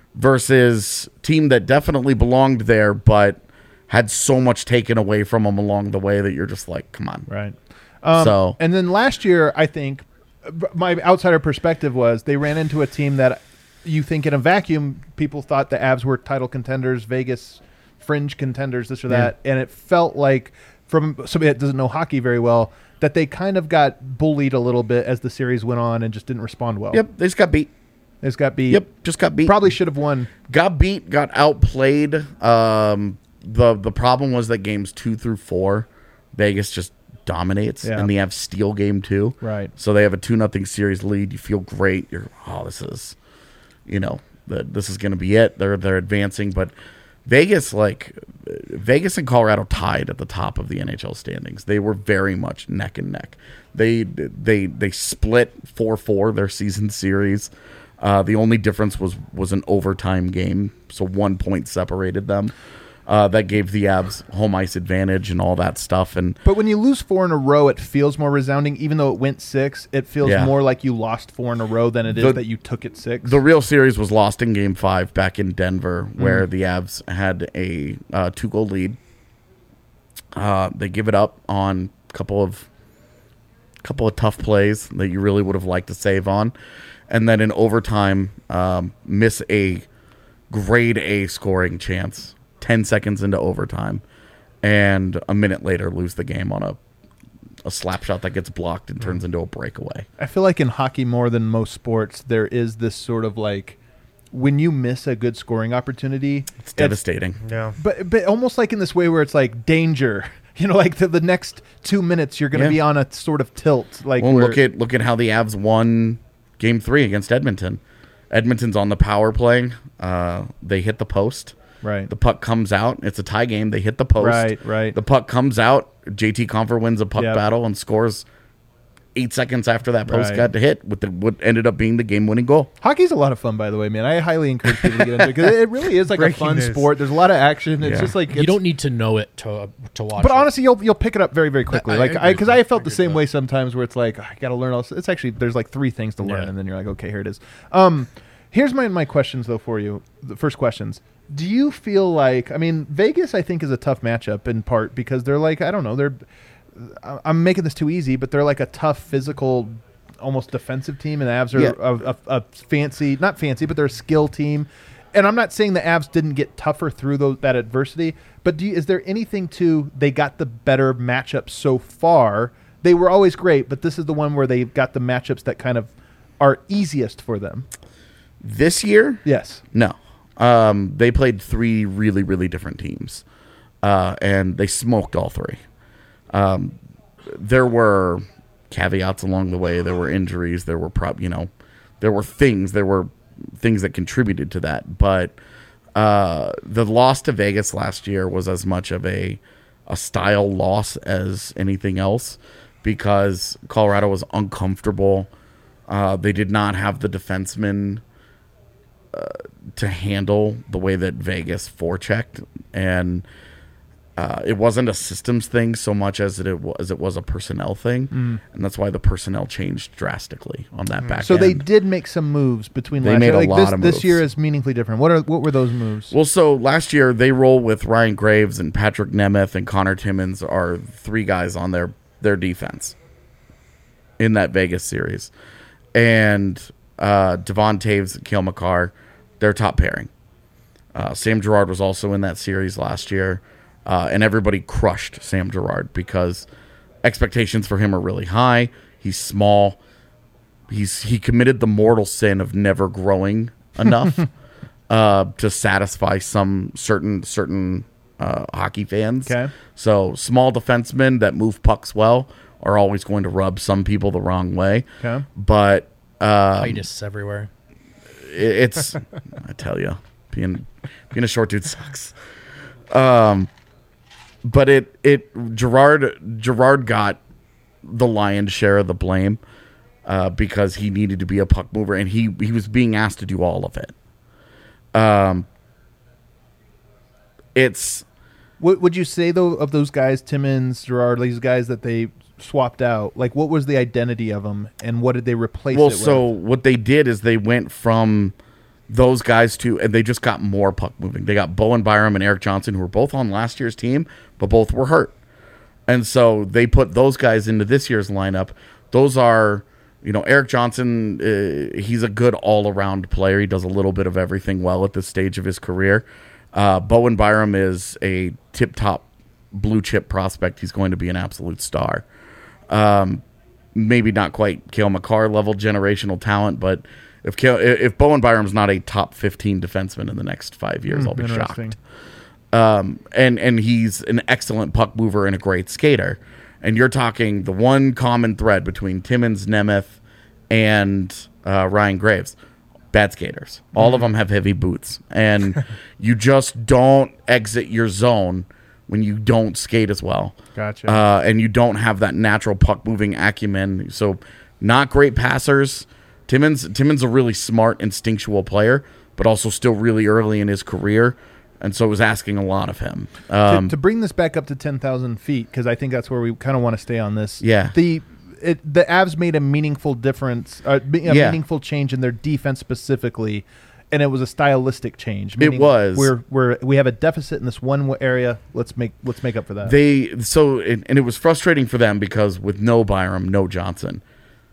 versus team that definitely belonged there, but had so much taken away from them along the way that you're just like, come on. Right. Um, So- and then last year, I think b- my outsider perspective was they ran into a team that you think in a vacuum, people thought the Avs were title contenders, Vegas fringe contenders, this or that. And it felt like, from somebody that doesn't know hockey very well, that they kind of got bullied a little bit as the series went on and just didn't respond well. Yep, they just got beat. They just got beat. Yep, just got beat. Probably should have won. Got beat, got outplayed. Um, the the problem was that games two through four, Vegas just dominates, Yeah. and they have steal game two. Right. So they have a two nothing series lead. You feel great. You're oh, this is, you know, the, this is going to be it. They're they're advancing, but Vegas like Vegas and Colorado tied at the top of the N H L standings. They were very much neck and neck. They they they split four four their season series. Uh, the only difference was was an overtime game, so one point separated them. Uh, that gave the Avs home ice advantage and all that stuff. And But when you lose four in a row, it feels more resounding. Even though it went six, it feels Yeah. more like you lost four in a row than it is The- that you took it six. the real series was lost in Game Five back in Denver, where the Avs had a uh, two goal lead. Uh, they give it up on a couple of couple of tough plays that you really would have liked to save on, and then in overtime, um, miss a grade A scoring chance. Ten seconds into overtime, and a minute later lose the game on a a slap shot that gets blocked and turns into a breakaway. I feel like in hockey more than most sports, there is this sort of like when you miss a good scoring opportunity, It's devastating. Yeah. but but almost like in this way where it's like danger. You know, like the, the next two minutes you're going to Yeah. be on a sort of tilt. Like Well, where- look at look at how the Avs won Game Three against Edmonton. Edmonton's on the power play. Uh, they hit the post. right. The puck comes out. It's a tie game. They hit the post. Right, right. The puck comes out. J T Compher wins a puck Yep. battle and scores eight seconds after that post Right. got to hit with the what ended up being the game-winning goal. Hockey's a lot of fun, by the way, man. I highly encourage people to get into it because it really is like a Breaking fun news. sport. There's a lot of action. It's Yeah. just like You it's- don't need to know it to to watch. But it. honestly, you'll you'll pick it up very very quickly. I- I like agree I because with I, that. felt I the agree same with way that. sometimes where it's like I got to learn all. It's actually there's like three things to learn, Yeah. and then you're like, okay, here it is. Um, here's my my questions though for you. The first questions. Do you feel like I mean Vegas? I think is a tough matchup in part because they're like I don't know they're. I- I'm making this too easy, but they're like a tough physical, almost defensive team, and the Avs are Yeah. a, a, a fancy, not fancy, but they're a skill team. and I'm not saying the Avs didn't get tougher through those, that adversity, but do you, is there anything to they got the better matchups so far? They were always great, but this is the one where they got the matchups that kind of are easiest for them. This year? Yes. No. Um, they played three really, really different teams, uh, and they smoked all three. Um, there were caveats along the way. There were injuries. There were prob, you know, there were things. There were things that contributed to that. But uh, the loss to Vegas last year was as much of a a style loss as anything else, because Colorado was uncomfortable. Uh, they did not have the defensemen uh, to handle the way that Vegas forechecked, and uh, it wasn't a systems thing so much as it was it was a personnel thing, mm. and that's why the personnel changed drastically on that mm. back so end. So they did make some moves between they last made year. a Like lot this, of this moves. year is meaningfully different. What are what were those moves? Well, so last year they roll with Ryan Graves and Patrick Nemeth and Connor Timmins are three guys on their their defense in that Vegas series. And uh, Devon Taves and Cale Makar, their top pairing. Uh, Sam Girard was also in that series last year, uh, and everybody crushed Sam Girard because expectations for him are really high. He's small. He's he committed the mortal sin of never growing enough uh, to satisfy some certain certain uh, hockey fans. Okay. So small defensemen that move pucks well are always going to rub some people the wrong way. Okay. But um, itis everywhere. It, it's I tell you, being being a short dude sucks. Um, but it it Girard Girard got the lion's share of the blame uh, because he needed to be a puck mover, and he he was being asked to do all of it. Um, it's. What would you say though of those guys, Timmins, Girard, these guys that they swapped out? Like, what was the identity of them, and what did they replace well, it with? so what they did is they went from those guys to, and they just got more puck moving. They got Bowen Byram and Eric Johnson, who were both on last year's team, but both were hurt. And so they put those guys into this year's lineup. Those are, you know, Eric Johnson, uh, he's a good all-around player. He does a little bit of everything well at this stage of his career. Uh, Bowen Byram is a tip-top blue-chip prospect. He's going to be an absolute star. Um, maybe not quite Cale Makar level generational talent, but if Cale, if Bowen Byram's not a top fifteen defenseman in the next five years, Mm, I'll be interesting. shocked. Um, and and he's an excellent puck mover and a great skater. And you're talking the one common thread between Timmins, Nemeth, and uh, Ryan Graves. Bad skaters. All of them have heavy boots. And you just don't exit your zone when you don't skate as well. Gotcha. Uh, and you don't have that natural puck-moving acumen. So not great passers. Timmins, Timmins a really smart, instinctual player, but also still really early in his career. And so it was asking a lot of him. Um, to, to bring this back up to ten thousand feet, because I think that's where we kind of want to stay on this. Yeah. The it, the Avs made a meaningful difference, uh, a Yeah. meaningful change in their defense specifically, and it was a stylistic change. It meaning was. We're we're we have a deficit in this one area. Let's make let's make up for that. They so it, and it was frustrating for them because with no Byram, no Johnson,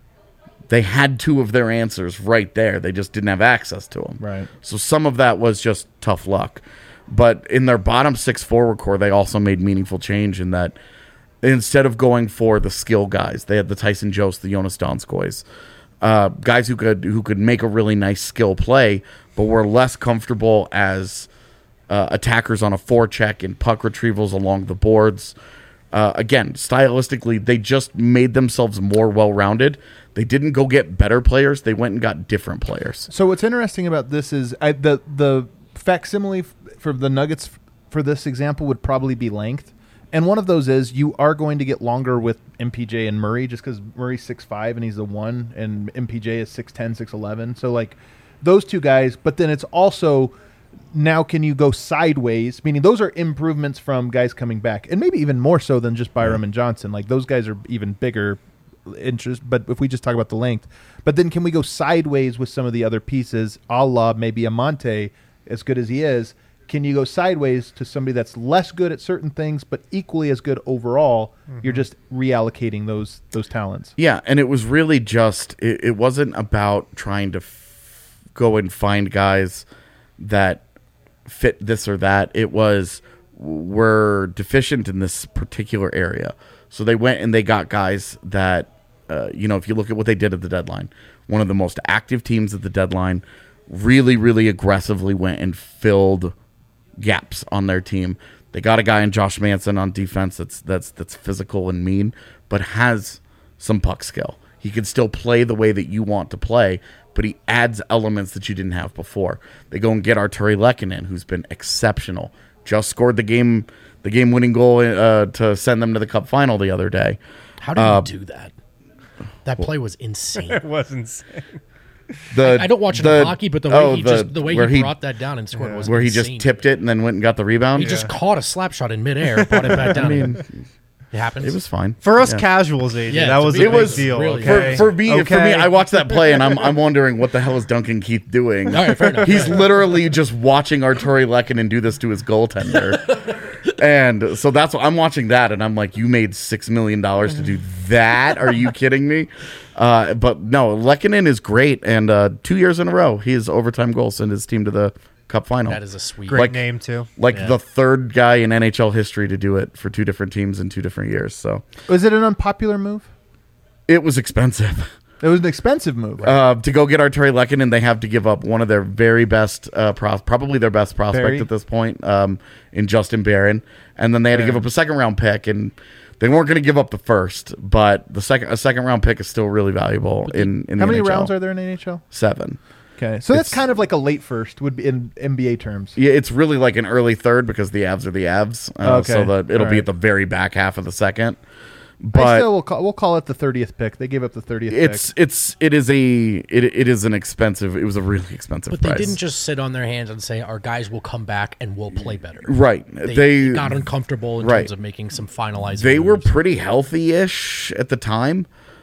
they had two of their answers right there. They just didn't have access to them. Right. So some of that was just tough luck. But in their bottom six forward core, they also made meaningful change in that instead of going for the skill guys, they had the Tyson Jost, the Jonas Donskois, uh, guys who could who could make a really nice skill play, but were less comfortable as uh, attackers on a forecheck and puck retrievals along the boards. Uh, again, stylistically, they just made themselves more well-rounded. They didn't go get better players. They went and got different players. So what's interesting about this is I, the the facsimile f- for the Nuggets f- for this example would probably be length. And one of those is you are going to get longer with M P J and Murray just because Murray's six five and he's the one, and M P J is six ten, six eleven. So, like, those two guys. But then it's also now can you go sideways, meaning those are improvements from guys coming back. And maybe even more so than just Byram and Johnson. Like, those guys are even bigger interest. But if we just talk about the length. But then can we go sideways with some of the other pieces, a la maybe Amante, as good as he is. Can you go sideways to somebody that's less good at certain things but equally as good overall? Mm-hmm. You're just reallocating those those talents. Yeah, and it was really just it, it wasn't about trying to f- go and find guys that fit this or that. It was we're deficient in this particular area. So they went and they got guys that, uh, you know, if you look at what they did at the deadline, one of the most active teams at the deadline really, really aggressively went and filled gaps on their team. They got a guy in Josh Manson on defense that's that's that's physical and mean, but has some puck skill. He can still play the way that you want to play, but he adds elements that you didn't have before. They go and get Arturi Lehkonen, who's been exceptional. Just scored the game, the game-winning goal uh, to send them to the Cup final the other day. How did Uh, you do that? That play was insane. It was insane. The, I don't watch the, hockey, but the way oh, he just the way where he brought that down and scored was where he insane. just tipped it and then went and got the rebound. He just caught a slap shot in midair, brought it back down. I mean, it happens. it was fine For us Yeah. casuals, A J, Yeah, that it's a was a big- big It was deal. really- Okay? For, for me, for Okay. me, I watched that play and I'm I'm wondering what the hell is Duncan Keith doing? All right, fair enough. He's literally just watching Arturi Lehkonen do this to his goaltender, and so that's what I'm watching that, and I'm like, you made six million dollars to do that? Are you kidding me? Uh, but no, Lehkonen is great, and uh, two years in a row, his overtime goal sent his team to the Cup final. That is a sweet. Great like- name, too. like Yeah. the third guy in N H L history to do it for two different teams in two different years. So Was it an unpopular move? it was expensive. It was an expensive move. Uh, to go get Arturi Lehkonen, they have to give up one of their very best, uh, pros- probably their best prospect Barry? at this point, um, in Justin Barron, and then they had to give up a second round pick, and they weren't going to give up the first, but the second a second round pick is still really valuable in in How the many N H L. rounds are there in N H L? Seven. Okay, so that's It's- kind of like a late first would be in N B A terms. Yeah, it's really like an early third because the Avs are the Avs, uh, Okay. so that it'll All be right. at the very back half of the second. I But still will call, we'll call it the thirtieth pick. They gave up the thirtieth it's pick. it's it is a it, it is an expensive. It was a really expensive. But they price. didn't just sit on their hands and say our guys will come back and we'll play better. right. They, They, got uncomfortable in right. terms of making some finalizing. they were moves. pretty healthy-ish at the time,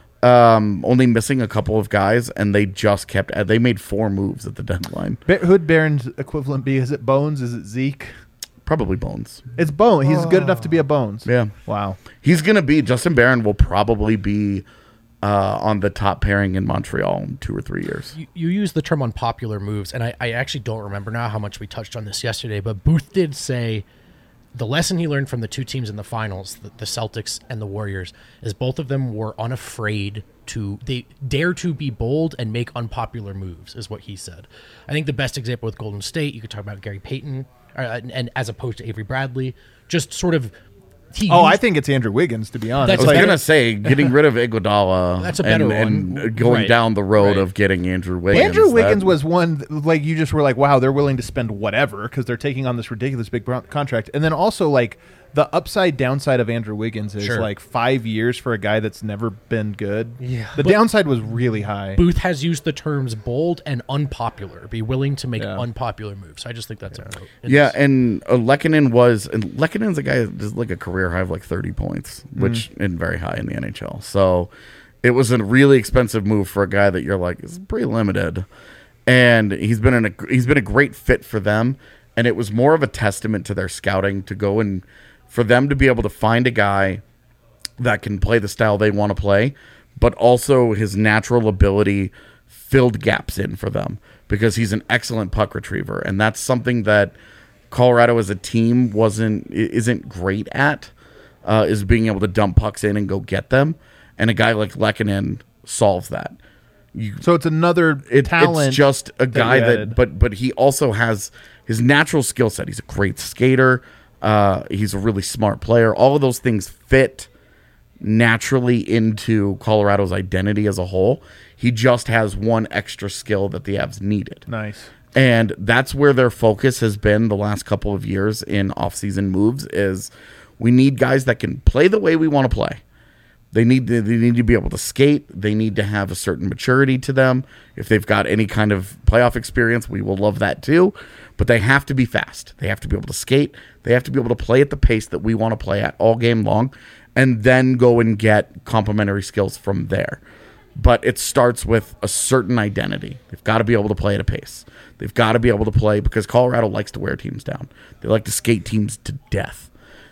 um, only missing a couple of guys, and they just kept. uh, They made four moves at the deadline. Ba- Who'd Barron's equivalent be? Is it Bones? Is it Zeke? Probably Bones. It's Bones. He's good enough to be a Bones. Yeah, Wow. he's gonna be. Justin Barron will probably be uh, on the top pairing in Montreal in two or three years. You, you use the term unpopular moves, and I, I actually don't remember now how much we touched on this yesterday, but Booth did say the lesson he learned from the two teams in the finals, the, the Celtics and the Warriors, is both of them were unafraid to, they dare to be bold and make unpopular moves, is what he said. I think the best example with Golden State, you could talk about Gary Payton, uh, and, and as opposed to Avery Bradley, just sort of. He Oh, used- I think it's Andrew Wiggins, to be honest. That's I was better- gonna say getting rid of Iguodala That's a and, better and one. going Right. down the road Right. of getting Andrew Wiggins. Andrew Wiggins that- was one th- like you just were like, wow, they're willing to spend whatever because they're taking on this ridiculous big bro- contract, and then also like the upside downside of Andrew Wiggins is Sure. like five years for a guy that's never been good. Yeah. the But- downside was really high. Booth has used the terms bold and unpopular, be willing to make Yeah. unpopular moves. I just think that's important. Yeah, and uh, Lehkonen was and Lekkonen's a guy that does like a career high of like thirty points, which and very high in the N H L. So it was a really expensive move for a guy that you're like is pretty limited, and he's been in a he's been a great fit for them, and it was more of a testament to their scouting to go and for them to be able to find a guy that can play the style they want to play, but also his natural ability filled gaps in for them because he's an excellent puck retriever, and that's something that Colorado as a team wasn't i- isn't great at, uh, is being able to dump pucks in and go get them, and a guy like Lehkonen solves that. You, so it's another it, talent. it's just a guy you that, added. but but he also has his natural skill set. He's a great skater. Uh, he's a really smart player. All of those things fit naturally into Colorado's identity as a whole. He just has one extra skill that the Avs needed. Nice. And that's where their focus has been the last couple of years in offseason moves is we need guys that can play the way we want to play. They need to, they need to be able to skate. They need to have a certain maturity to them. If they've got any kind of playoff experience, we will love that too. But they have to be fast. They have to be able to skate. They have to be able to play at the pace that we want to play at all game long, and then go and get complementary skills from there. But it starts with a certain identity. They've got to be able to play at a pace. They've got to be able to play because Colorado likes to wear teams down. They like to skate teams to death.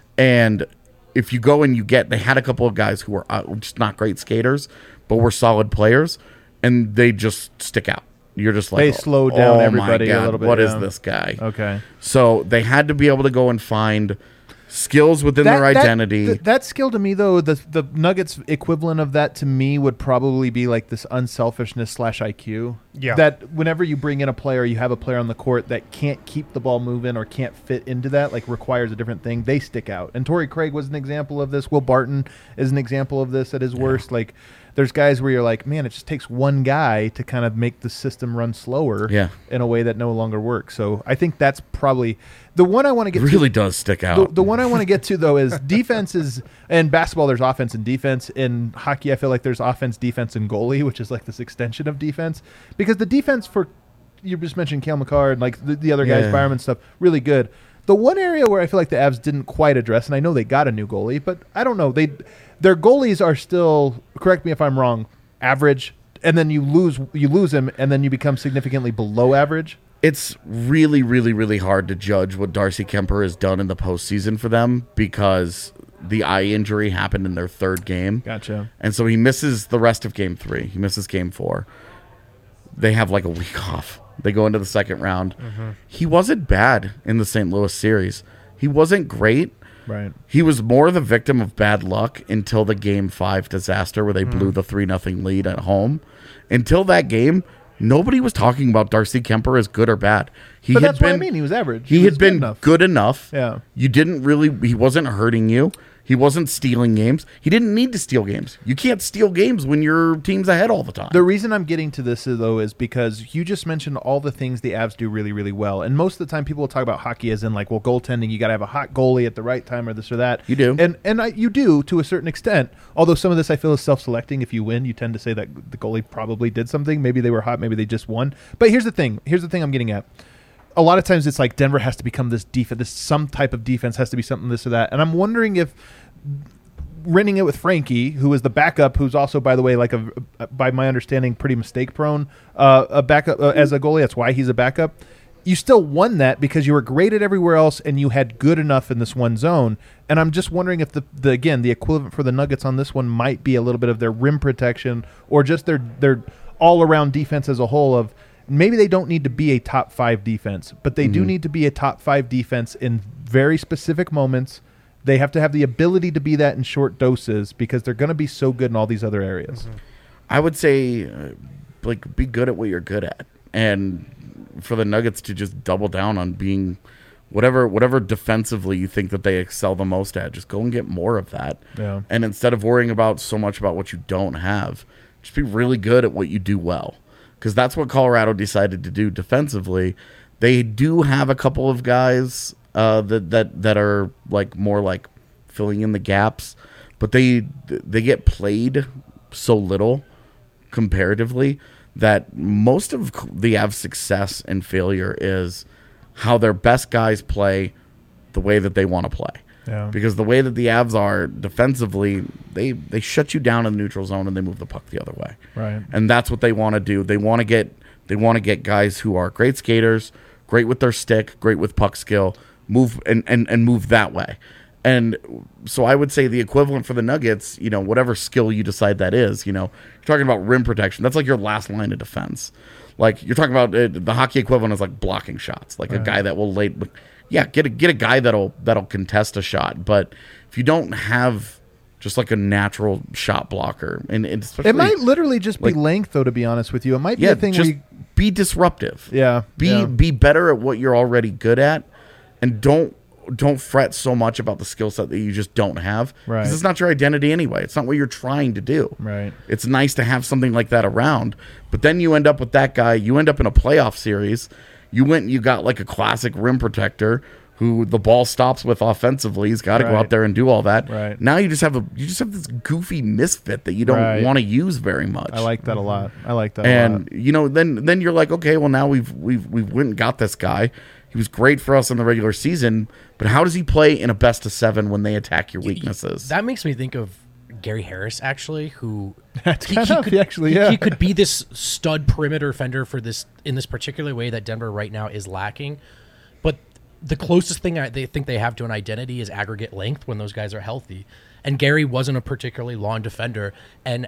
And if you go and you get, they had a couple of guys who were uh, just not great skaters, but were solid players, and they just stick out. you're just like They slowed down oh everybody my a God, little bit, What is yeah. this guy? Okay. So they had to be able to go and find skills within their identity. That, that skill to me, though, the the Nuggets equivalent of that to me would probably be like this unselfishness slash I Q. Yeah. That whenever you bring in a player, you have a player on the court that can't keep the ball moving or can't fit into that, like requires a different thing, they stick out. And Torrey Craig was an example of this. Will Barton is an example of this at his worst. Like, there's guys where you're like, man, it just takes one guy to kind of make the system run slower Yeah. in a way that no longer works. So I think that's probably the one I want to get It really to. does stick The, out. the one I want to get to, though, is defense is – in basketball, there's offense and defense. In hockey, I feel like there's offense, defense, and goalie, which is like this extension of defense. Because the defense for – you just mentioned Cale McCarr and like the, the other guys, Yeah. Byram and stuff, really good. The one area where I feel like the Avs didn't quite address, and I know they got a new goalie, but I don't know. They Their goalies are still – correct me if I'm wrong – average, and then you lose you lose him, and then you become significantly below average. It's really, really, really hard to judge what Darcy Kemper has done in the postseason for them because the eye injury happened in their third game. Gotcha. And so he misses the rest of game three. He misses game four. They have like a week off. They go into the second round. Mm-hmm. He wasn't bad in the Saint Louis series. He wasn't great. Right. He was more the victim of bad luck until the game five disaster where they blew the three nothing lead at home. Until that game, nobody was talking about Darcy Kemper as good or bad. He But had that's been, what I mean. He was average. He, He was had good been enough. good enough. Yeah. You didn't really, he wasn't hurting you. He wasn't stealing games. He didn't need to steal games. You can't steal games when your team's ahead all the time. The reason I'm getting to this, though, is because you just mentioned all the things the Avs do really, really well. And most of the time, people will talk about hockey as in, like, well, goaltending, you got to have a hot goalie at the right time or this or that. You do. And and I, you do to a certain extent. Although some of this I feel is self-selecting. If you win, you tend to say that the goalie probably did something. Maybe they were hot. Maybe they just won. But here's the thing. Here's the thing I'm getting at. A lot of times it's like Denver has to become this defense. This some type of defense has to be something this or that. And I'm wondering if renting it with Frankie, who is the backup, who's also, by the way, like a, a by my understanding, pretty mistake prone, uh, a backup uh, as a goalie. That's why he's a backup. You still won that because you were graded everywhere else and you had good enough in this one zone. And I'm just wondering if the, the again the equivalent for the Nuggets on this one might be a little bit of their rim protection or just their their all around defense as a whole. Of maybe they don't need to be a top five defense, but they mm-hmm. do need to be a top five defense in very specific moments. They have to have the ability to be that in short doses because they're going to be so good in all these other areas. Mm-hmm. I would say, uh, like, be good at what you're good at, and for the Nuggets to just double down on being whatever, whatever defensively you think that they excel the most at. Just go and get more of that, yeah. And instead of worrying about so much about what you don't have, just be really good at what you do well, because that's what Colorado decided to do defensively. They do have a couple of guys. Uh, that that that are like more like filling in the gaps, but they they get played so little comparatively that most of the Avs' success and failure is how their best guys play the way that they want to play. Yeah. Because the way that the Avs are defensively, they they shut you down in the neutral zone and they move the puck the other way. Right. And that's what they want to do. They want to get they want to get guys who are great skaters, great with their stick, great with puck skill. Move and, and, and move that way. And so I would say the equivalent for the Nuggets, you know, whatever skill you decide that is, you know, you're talking about rim protection. That's like your last line of defense. Like you're talking about uh, the hockey equivalent is like blocking shots, like right. a guy that will lay, yeah, get a, get a guy that'll, that'll contest a shot. But if you don't have just like a natural shot blocker, and, and especially, it might literally just be like, length, though, to be honest with you. It might be yeah, a thing just where you, be disruptive. Yeah. Be, yeah. be better at what you're already good at. And don't don't fret so much about the skill set that you just don't have. Right. Because it's not your identity anyway. It's not what you're trying to do. Right. It's nice to have something like that around. But then you end up with that guy. You end up in a playoff series. You went and you got like a classic rim protector who the ball stops with offensively. He's got to right. go out there and do all that. Right. Now you just have a you just have this goofy misfit that you don't right. want to use very much. I like that a lot. I like that and, a lot. you know, then then you're like, okay, well now we've we've we've went and got this guy. He was great for us in the regular season, but how does he play in a best of seven when they attack your weaknesses? That makes me think of Gary Harris, actually, who That's he, kind he of, could, actually, he- yeah. he could be this stud perimeter defender for this in this particular way that Denver right now is lacking. But the closest thing I, they think they have to an identity is aggregate length when those guys are healthy. And Gary wasn't a particularly long defender, and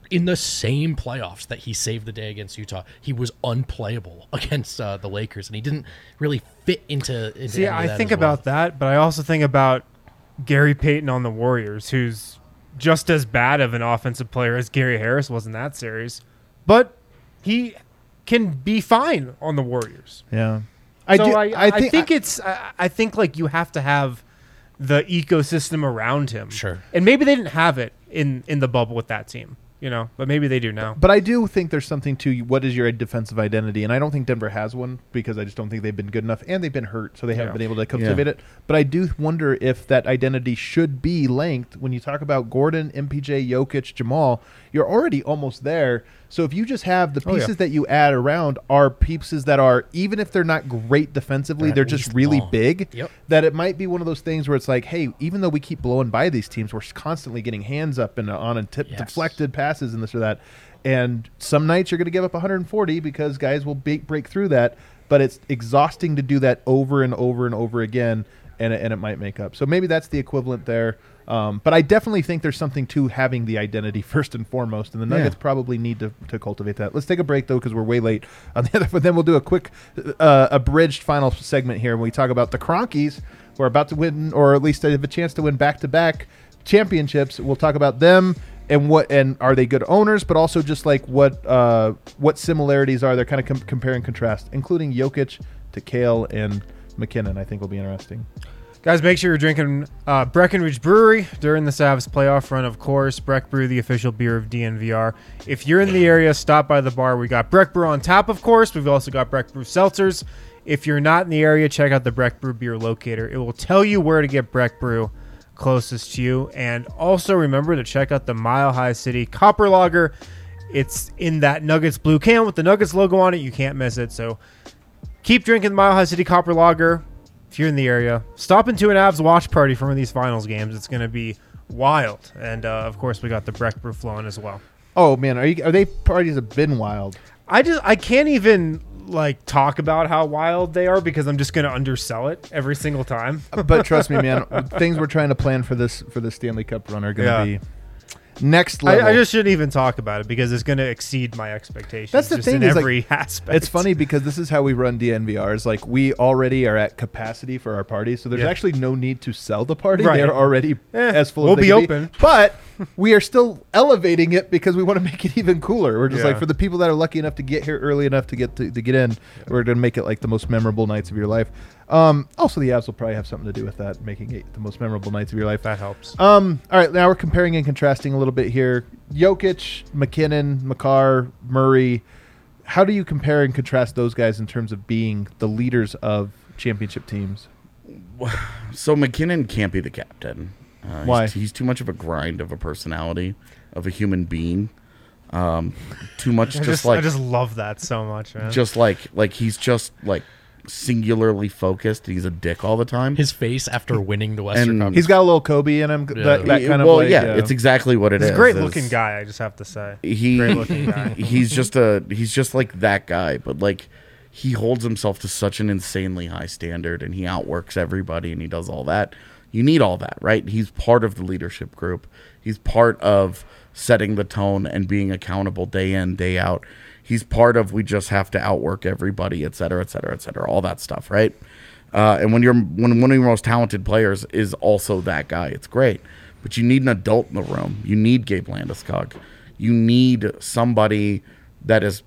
in the same playoffs that he saved the day against Utah, he was unplayable against uh, the Lakers, and he didn't really fit into. into See, any of I that think as well. about that, but I also think about Gary Payton on the Warriors, who's just as bad of an offensive player as Gary Harris was in that series, but he can be fine on the Warriors. Yeah, I so do. I, I, I think, think I- it's. I, I think like you have to have the ecosystem around him. Sure. And maybe they didn't have it in in the bubble with that team, you know, but maybe they do now. But I do think there's something to what is your defensive identity, and I don't think Denver has one because I just don't think they've been good enough, and they've been hurt, so they haven't Yeah. been able to Yeah. cultivate it. But I do wonder if that identity should be length. When you talk about Gordon, M P J, Jokic, Jamal, you're already almost there. So if you just have the Oh, yeah. pieces that you add around are pieces that are, even if they're not great defensively, They're they're at just least really long. big. Yep. That it might be one of those things where it's like, hey, even though we keep blowing by these teams, we're constantly getting hands up and on and tip Yes. deflected passes and this or that. And some nights you're going to give up one hundred forty because guys will be- break through that. But it's exhausting to do that over and over and over again, and it, and it might make up. So maybe that's the equivalent there. Um, but I definitely think there's something to having the identity first and foremost, and the Nuggets Yeah. probably need to, to cultivate that. Let's take a break, though, because we're way late on the other. But then we'll do a quick uh, abridged final segment here when we talk about the Cronkies, who are about to win, or at least they have a chance to win back-to-back championships. We'll talk about them and what and are they good owners, but also just like what uh, what similarities are there, kind of com- compare and contrast, including Jokic to Kale and McKinnon. I think will be interesting. Guys, make sure you're drinking uh, Breckenridge Brewery during the Savs playoff run, of course. Breck Brew, the official beer of D N V R. If you're in the area, stop by the bar. We got Breck Brew on tap, of course. We've also got Breck Brew seltzers. If you're not in the area, check out the Breck Brew beer locator. It will tell you where to get Breck Brew closest to you. And also remember to check out the Mile High City Copper Lager. It's in that Nuggets blue can with the Nuggets logo on it. You can't miss it. So keep drinking the Mile High City Copper Lager. If you're in the area, stop into an Avs watch party for one of these finals games. It's going to be wild. And, uh, of course, we got the Breck Brew flowing as well. Oh man, are you are they parties have been wild? I just I can't even like talk about how wild they are because I'm just going to undersell it every single time. But trust me, man, things we're trying to plan for this for the Stanley Cup run are going to Yeah. be next I, level. I just shouldn't even talk about it because it's going to exceed my expectations. That's the just thing in is, like, every aspect. It's funny because this is how we run D N V Rs. Like we already are at capacity for our parties, so there's Yeah. actually no need to sell the party. Right. They're already Eh, as full. we'll as they be can open. but we are still elevating it because we want to make it even cooler. We're just Yeah. like for the people that are lucky enough to get here early enough to get to, to get in, we're going to make it like the most memorable nights of your life. Um, also, the Avs will probably have something to do with that, making it the most memorable nights of your life. That helps. Um, all right, now we're comparing and contrasting a little bit here. Jokic, McKinnon, Makar, Murray. How do you compare and contrast those guys in terms of being the leaders of championship teams? So McKinnon can't be the captain. Uh, Why? He's, he's too much of a grind of a personality, of a human being. Um, too much, I just, just, like I just love that so much, man. just like like he's just like singularly focused. He's a dick all the time. His face after winning the Western And Conference. He's got a little Kobe in him. Yeah. That, that He- kind of well, like, yeah, uh, it's exactly what it He's is. a great is looking guy, I just have to say. He Great looking guy. he's just a he's just like that guy, but like he holds himself to such an insanely high standard, and he outworks everybody, and he does all that. You need all that, right? He's part of the leadership group. He's part of setting the tone and being accountable day in, day out. He's part of we just have to outwork everybody, et cetera, et cetera, et cetera, all that stuff, right? Uh, and when you're when one of your most talented players is also that guy, it's great. But you need an adult in the room. You need Gabe Landeskog. You need somebody that is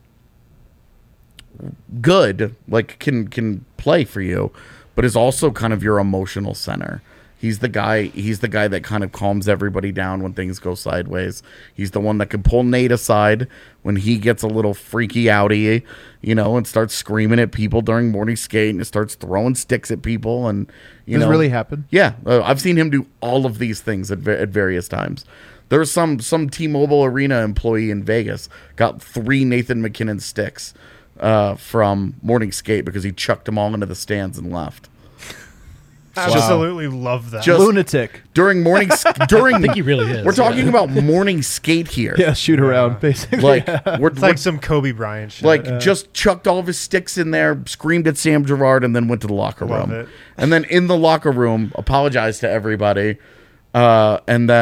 good, like can can play for you, but is also kind of your emotional center. He's the guy. He's the guy that kind of calms everybody down when things go sideways. He's the one that can pull Nate aside when he gets a little freaky outy, you know, and starts screaming at people during morning skate and starts throwing sticks at people. And you Does know, this really happen? yeah, uh, I've seen him do all of these things at, va- at various times. There's some some T-Mobile Arena employee in Vegas got three Nathan McKinnon sticks uh, from morning skate because he chucked them all into the stands and left. Absolutely love that. Just- lunatic. During morning s- during I think he really is. we're talking yeah. about morning skate here. Yeah, shoot around, basically. Like we're, it's like some Kobe Bryant shit. like just chucked all of his sticks in there, screamed at Sam Gerard, and then went to the locker Love room. it. And then in the locker room, apologized to everybody, uh, and then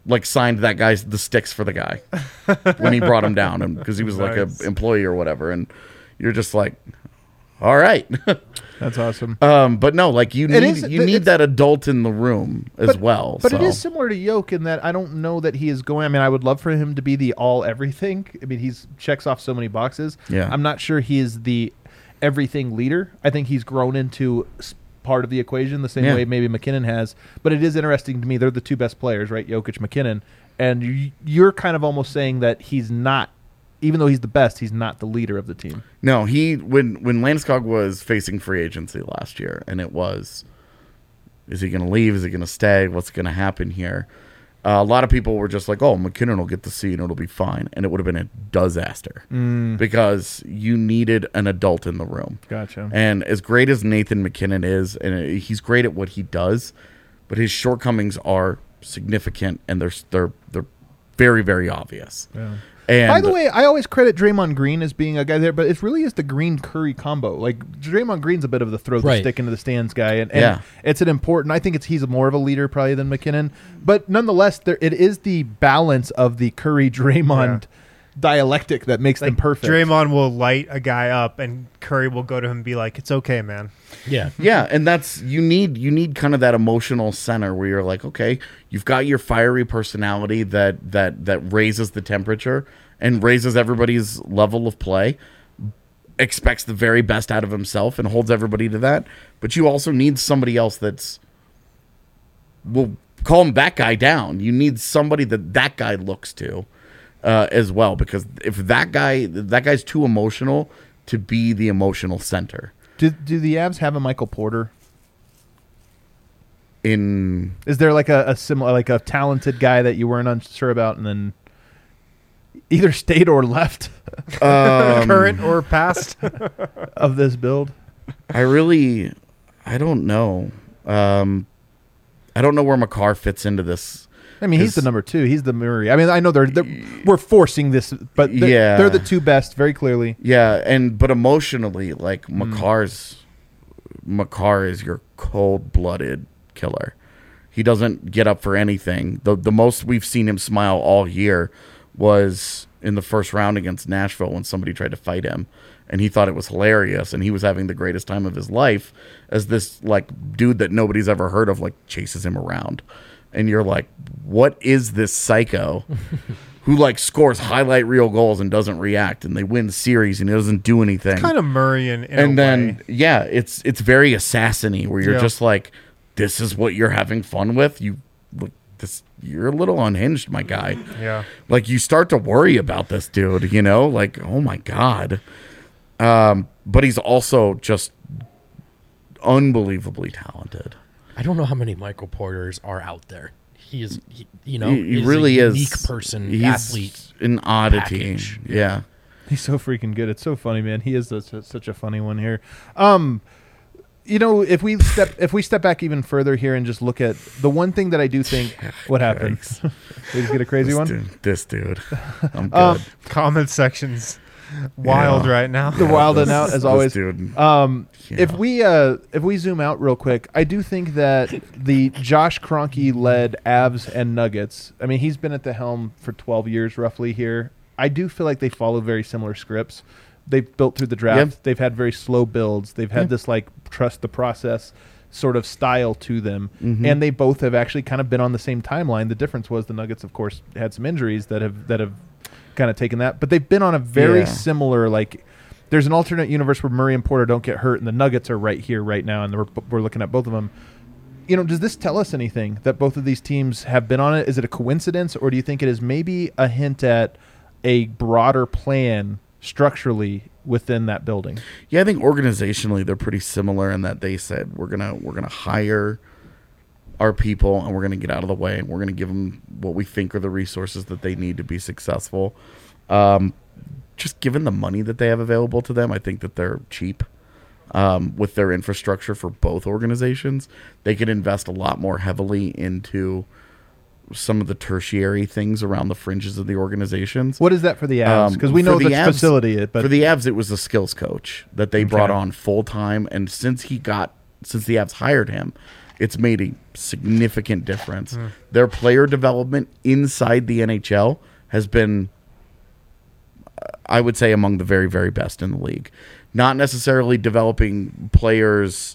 like signed that guy's the sticks for the guy when he brought him down, and because he was like Nice. a employee or whatever, and you're just like, all right. That's awesome. um, but no, like you It need is- you it's- need that adult in the room as but, well. But so. it is similar to Yoke in that I don't know that he is going. I mean, I would love for him to be the all everything. I mean, he's checks off so many boxes. Yeah. I'm not sure he is the everything leader. I think he's grown into s- part of the equation the same Yeah. way maybe McKinnon has. But it is interesting to me. They're the two best players, right? Jokic, McKinnon, and you, you're kind of almost saying that he's not. Even though he's the best, he's not the leader of the team. No, he when when Landeskog was facing free agency last year, and it was, is he going to leave? Is he going to stay? What's going to happen here? Uh, a lot of people were just like, "Oh, McKinnon will get the seat, and it'll be fine," and it would have been a disaster because you needed an adult in the room. Gotcha. And as great as Nathan McKinnon is, and he's great at what he does, but his shortcomings are significant, and they're they're they're very very obvious. Yeah. And By the way, I always credit Draymond Green as being a guy there, but it really is the Green Curry combo. Like Draymond Green's a bit of the throw the Right. stick into the stands guy, and, and Yeah. it's an important. I think it's he's more of a leader probably than McKinnon, but nonetheless, there it is the balance of the Curry Draymond dialectic that makes them Like, perfect. Draymond will light a guy up, and Curry will go to him and be like, "It's okay, man." Yeah. Yeah, and that's you need you need kind of that emotional center where you're like, okay, you've got your fiery personality that that that raises the temperature and raises everybody's level of play, expects the very best out of himself and holds everybody to that. But you also need somebody else that's will calm that guy down. You need somebody that that guy looks to uh, as well, because if that guy that guy's too emotional to be the emotional center. Do do the Avs have a Michael Porter? In Is there like a, a similar, like a talented guy that you weren't unsure about, and then either stayed or left um, Current or past? of this build? I really, I don't know. Um, I don't know where Makar fits into this. I mean, he's Is- the number two. He's the Murray. I mean, I know they're, they're we're forcing this, but they're, Yeah. they're the two best, very clearly. Yeah, and but emotionally, like Hmm. Makar's, Makar is your cold-blooded killer. He doesn't get up for anything. The the most we've seen him smile all year was in the first round against Nashville when somebody tried to fight him, and he thought it was hilarious, and he was having the greatest time of his life as this like dude that nobody's ever heard of like chases him around, and you're like, what is this psycho who like scores highlight reel goals and doesn't react, and they win the series and he doesn't do anything, Kind of Murray in, in and a then way. yeah, it's it's very assassin-y where you're Yeah. just like, this is what you're having fun with. You look this you're a little unhinged, my guy. Yeah. Like you start to worry about this dude, you know, like, oh my God. Um, but he's also just unbelievably talented. I don't know how many Michael Porters are out there. He is, he, you know, He, he is really a is unique person, he's athlete. an oddity. package. Yeah. He's so freaking good. It's so funny, man. He is such a, such a funny one here. Um, you know, if we step if we step back even further here and just look at the one thing that I do think, what happened? Yikes. We just get a crazy This one. dude, this dude. I'm good. Um, Comment section's wild Yeah. right now. The wild and out This- as this always. dude. Um, if Yeah. we uh, if we zoom out real quick, I do think that the Josh Kroenke led Avs and Nuggets. I mean, he's been at the helm for twelve years roughly here. I do feel like they follow very similar scripts. They've built through the draft. Yep. They've had very slow builds. They've had Yep. this like trust the process sort of style to them, Mhm. and they both have actually kind of been on the same timeline. The difference was the Nuggets, of course, had some injuries that have that have kind of taken that, but they've been on a very Yeah. similar like. There's an alternate universe where Murray and Porter don't get hurt, and the Nuggets are right here, right now, and we're, we're looking at both of them. You know, does this tell us anything that both of these teams have been on it? Is it a coincidence, or do you think it is maybe a hint at a broader plan structurally within that building? Yeah, I think organizationally they're pretty similar in that they said we're gonna we're gonna hire our people and we're gonna get out of the way and we're gonna give them what we think are the resources that they need to be successful. Um, just given the money that they have available to them, I think that they're cheap um, with their infrastructure for both organizations. They could invest a lot more heavily into some of the tertiary things around the fringes of the organizations. What is that for the Avs? Um, Because we for know the the, Avs- facility, but for the Avs, it was a skills coach that they brought Okay. on full time, and since he got since the Avs hired him, it's made a significant difference. Mm. Their player development inside the N H L has been, I would say, among the very, very best in the league. Not necessarily developing players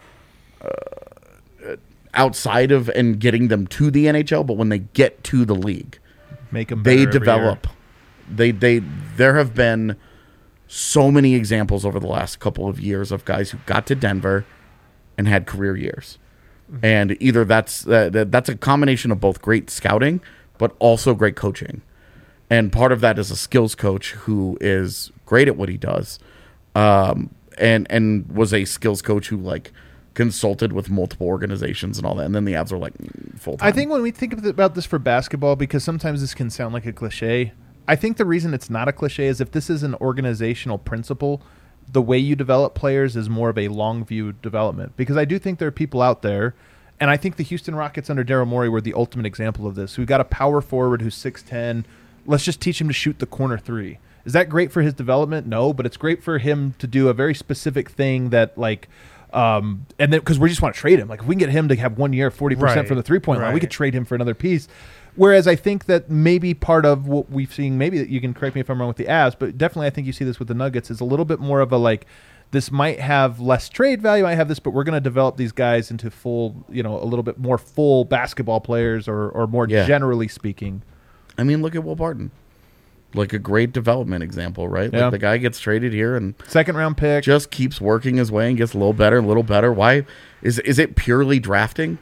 uh, outside of and getting them to the N H L, but when they get to the league, make them they develop. They they there have been so many examples over the last couple of years of guys who got to Denver and had career years. Mm-hmm. And either that's uh, that's a combination of both great scouting, but also great coaching. And part of that is a skills coach who is great at what he does, um, and and was a skills coach who like consulted with multiple organizations and all that. And then the Avs are like full time. I think when we think about this for basketball, because sometimes this can sound like a cliche, I think the reason it's not a cliche is if this is an organizational principle, the way you develop players is more of a long view development. Because I do think there are people out there, and I think the Houston Rockets under Daryl Morey were the ultimate example of this. We've got a power forward who's six ten. Let's just teach him to shoot the corner three. Is that great for his development? No, but it's great for him to do a very specific thing that, like, um, and then because we just want to trade him. Like, if we can get him to have one year, forty percent Right. from the three-point Right. line, we could trade him for another piece. Whereas I think that maybe part of what we've seen, maybe that you can correct me if I'm wrong with the Avs, but definitely I think you see this with the Nuggets, is a little bit more of a like, this might have less trade value, I have this, but we're going to develop these guys into full, you know, a little bit more full basketball players or, or more Yeah. generally speaking. I mean, look at Will Barton. Like a great development example, right? Yeah. Like the guy gets traded here and Second round pick. just keeps working his way and gets a little better, a little better. Why is is it purely drafting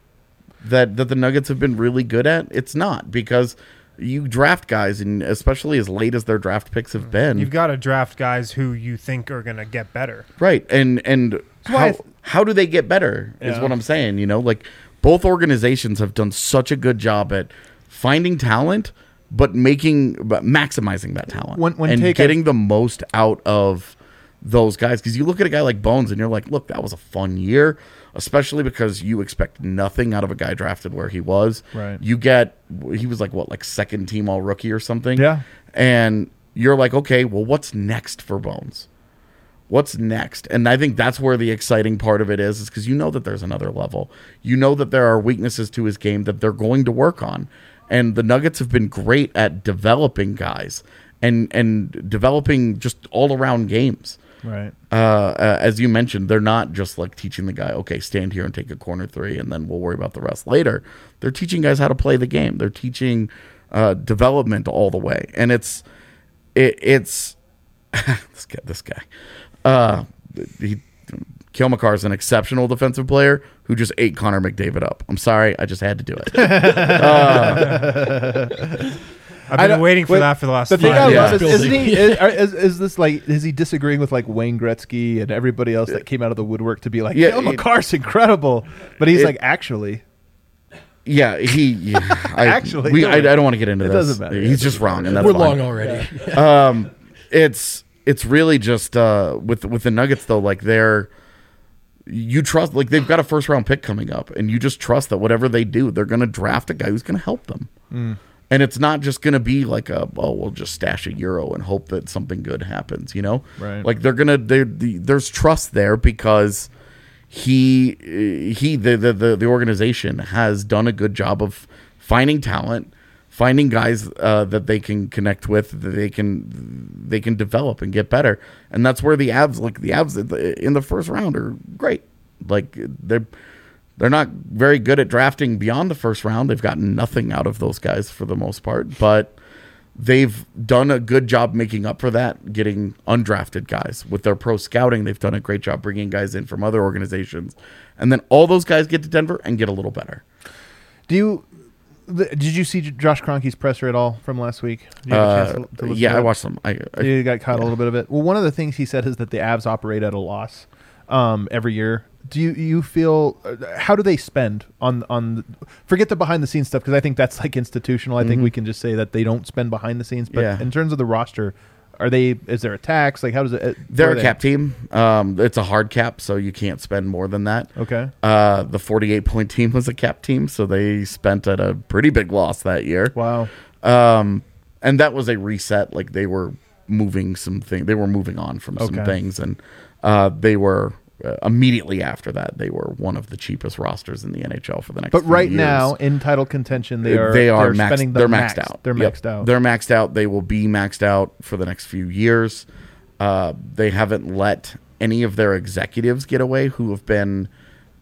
that that the Nuggets have been really good at? It's not, because you draft guys, and especially as late as their draft picks have been, You've got to draft guys who you think are going to get better. right? And and why I how th- how do they get better? Is Yeah. what I'm saying. You know, like both organizations have done such a good job at finding talent, but making but maximizing that talent When- when and take getting the most out of those guys. Because you look at a guy like Bones and you're like, look, that was a fun year, especially because you expect nothing out of a guy drafted where he was. Right. You get, he was like, what, like second team all rookie or something? Yeah. And you're like, okay, well, what's next for Bones? What's next? And I think that's where the exciting part of it is, is because you know that there's another level. You know that there are weaknesses to his game that they're going to work on. And the Nuggets have been great at developing guys and and developing just all around games. Right. Uh, uh, as you mentioned, they're not just like teaching the guy, okay, stand here and take a corner three, and then we'll worry about the rest later. They're teaching guys how to play the game. They're teaching uh, development all the way, and it's it, it's this guy. This guy, uh, he. Cale Makar is an exceptional defensive player who just ate Connor McDavid up. I'm sorry, I just had to do it. uh, I've I been don't- waiting for wait, that for the last The thing five I Yeah. love is, Building. isn't he? Is, are- is, is this like? Is he disagreeing with like Wayne Gretzky and everybody else that came out of the woodwork to be like, Yeah, Cale it- Makar's incredible, but he's it- like, actually, yeah, he yeah, I, Actually, we, no, I, I don't want to get into it this. doesn't matter. He's just wrong, and that's We're fine. long already. um, it's it's really just uh, with with the Nuggets though, like they're you trust, like they've got a first round pick coming up, and you just trust that whatever they do, they're going to draft a guy who's going to help them. Mm. And it's not just going to be like a, oh, we'll just stash a euro and hope that something good happens, you know? Right. Like they're going to, the, there's trust there because he, he, the, the, the, the organization has done a good job of finding talent, finding guys uh, that they can connect with, that they can, they can develop and get better. And that's where the Avs, like the Avs in the first round are great. Like they're, They're not very good at drafting beyond the first round. They've gotten nothing out of those guys for the most part, but they've done a good job making up for that, getting undrafted guys. With their pro scouting, they've done a great job bringing guys in from other organizations. And then all those guys get to Denver and get a little better. do you? The, did you see Josh Kroenke's presser at all from last week? Did you have a Uh, chance to- to listen yeah, to I it? watched them. I, I, You got caught a little bit of it. Well, one of the things he said is that the Avs operate at a loss um, every year. Do you you feel uh, how do they spend on on the, forget the behind the scenes stuff, because I think that's like institutional. I think Mhm. we can just say that they don't spend behind the scenes. But Yeah. in terms of the roster, are they? Is there a tax? Like how does it? uh, they're where a are they? cap team. Um, it's a hard cap, so you can't spend more than that. Okay. Uh, the forty-eight point team was a cap team, so they spent at a pretty big loss that year. Wow. Um, and that was a reset. Like they were moving some things. They were moving on from some Okay. things, and uh, they were uh, immediately after that, they were one of the cheapest rosters in the N H L for the next. But few right years. now, in title contention, they are they are they're maxed, spending the they're max. maxed out. They're Yep. maxed out. They're maxed out. They will be maxed out for the next few years. Uh, they haven't let any of their executives get away who have been.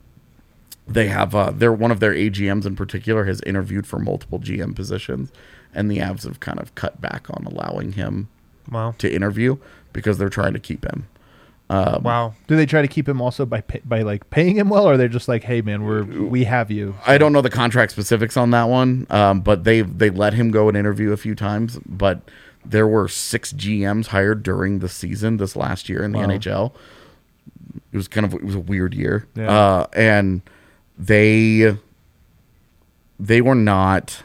They have uh, they're one of their A G Ms in particular has interviewed for multiple G M positions, and the Avs have kind of cut back on allowing him Wow. to interview because they're trying to keep him. Um, Wow. Do they try to keep him also by pay, by like paying him well, or they're just like, hey man, we're we have you? I don't know the contract specifics on that one, um, but they they let him go and interview a few times. But there were six G Ms hired during the season this last year in the Wow. N H L. It was kind of it was a weird year, Yeah. uh, and they they were not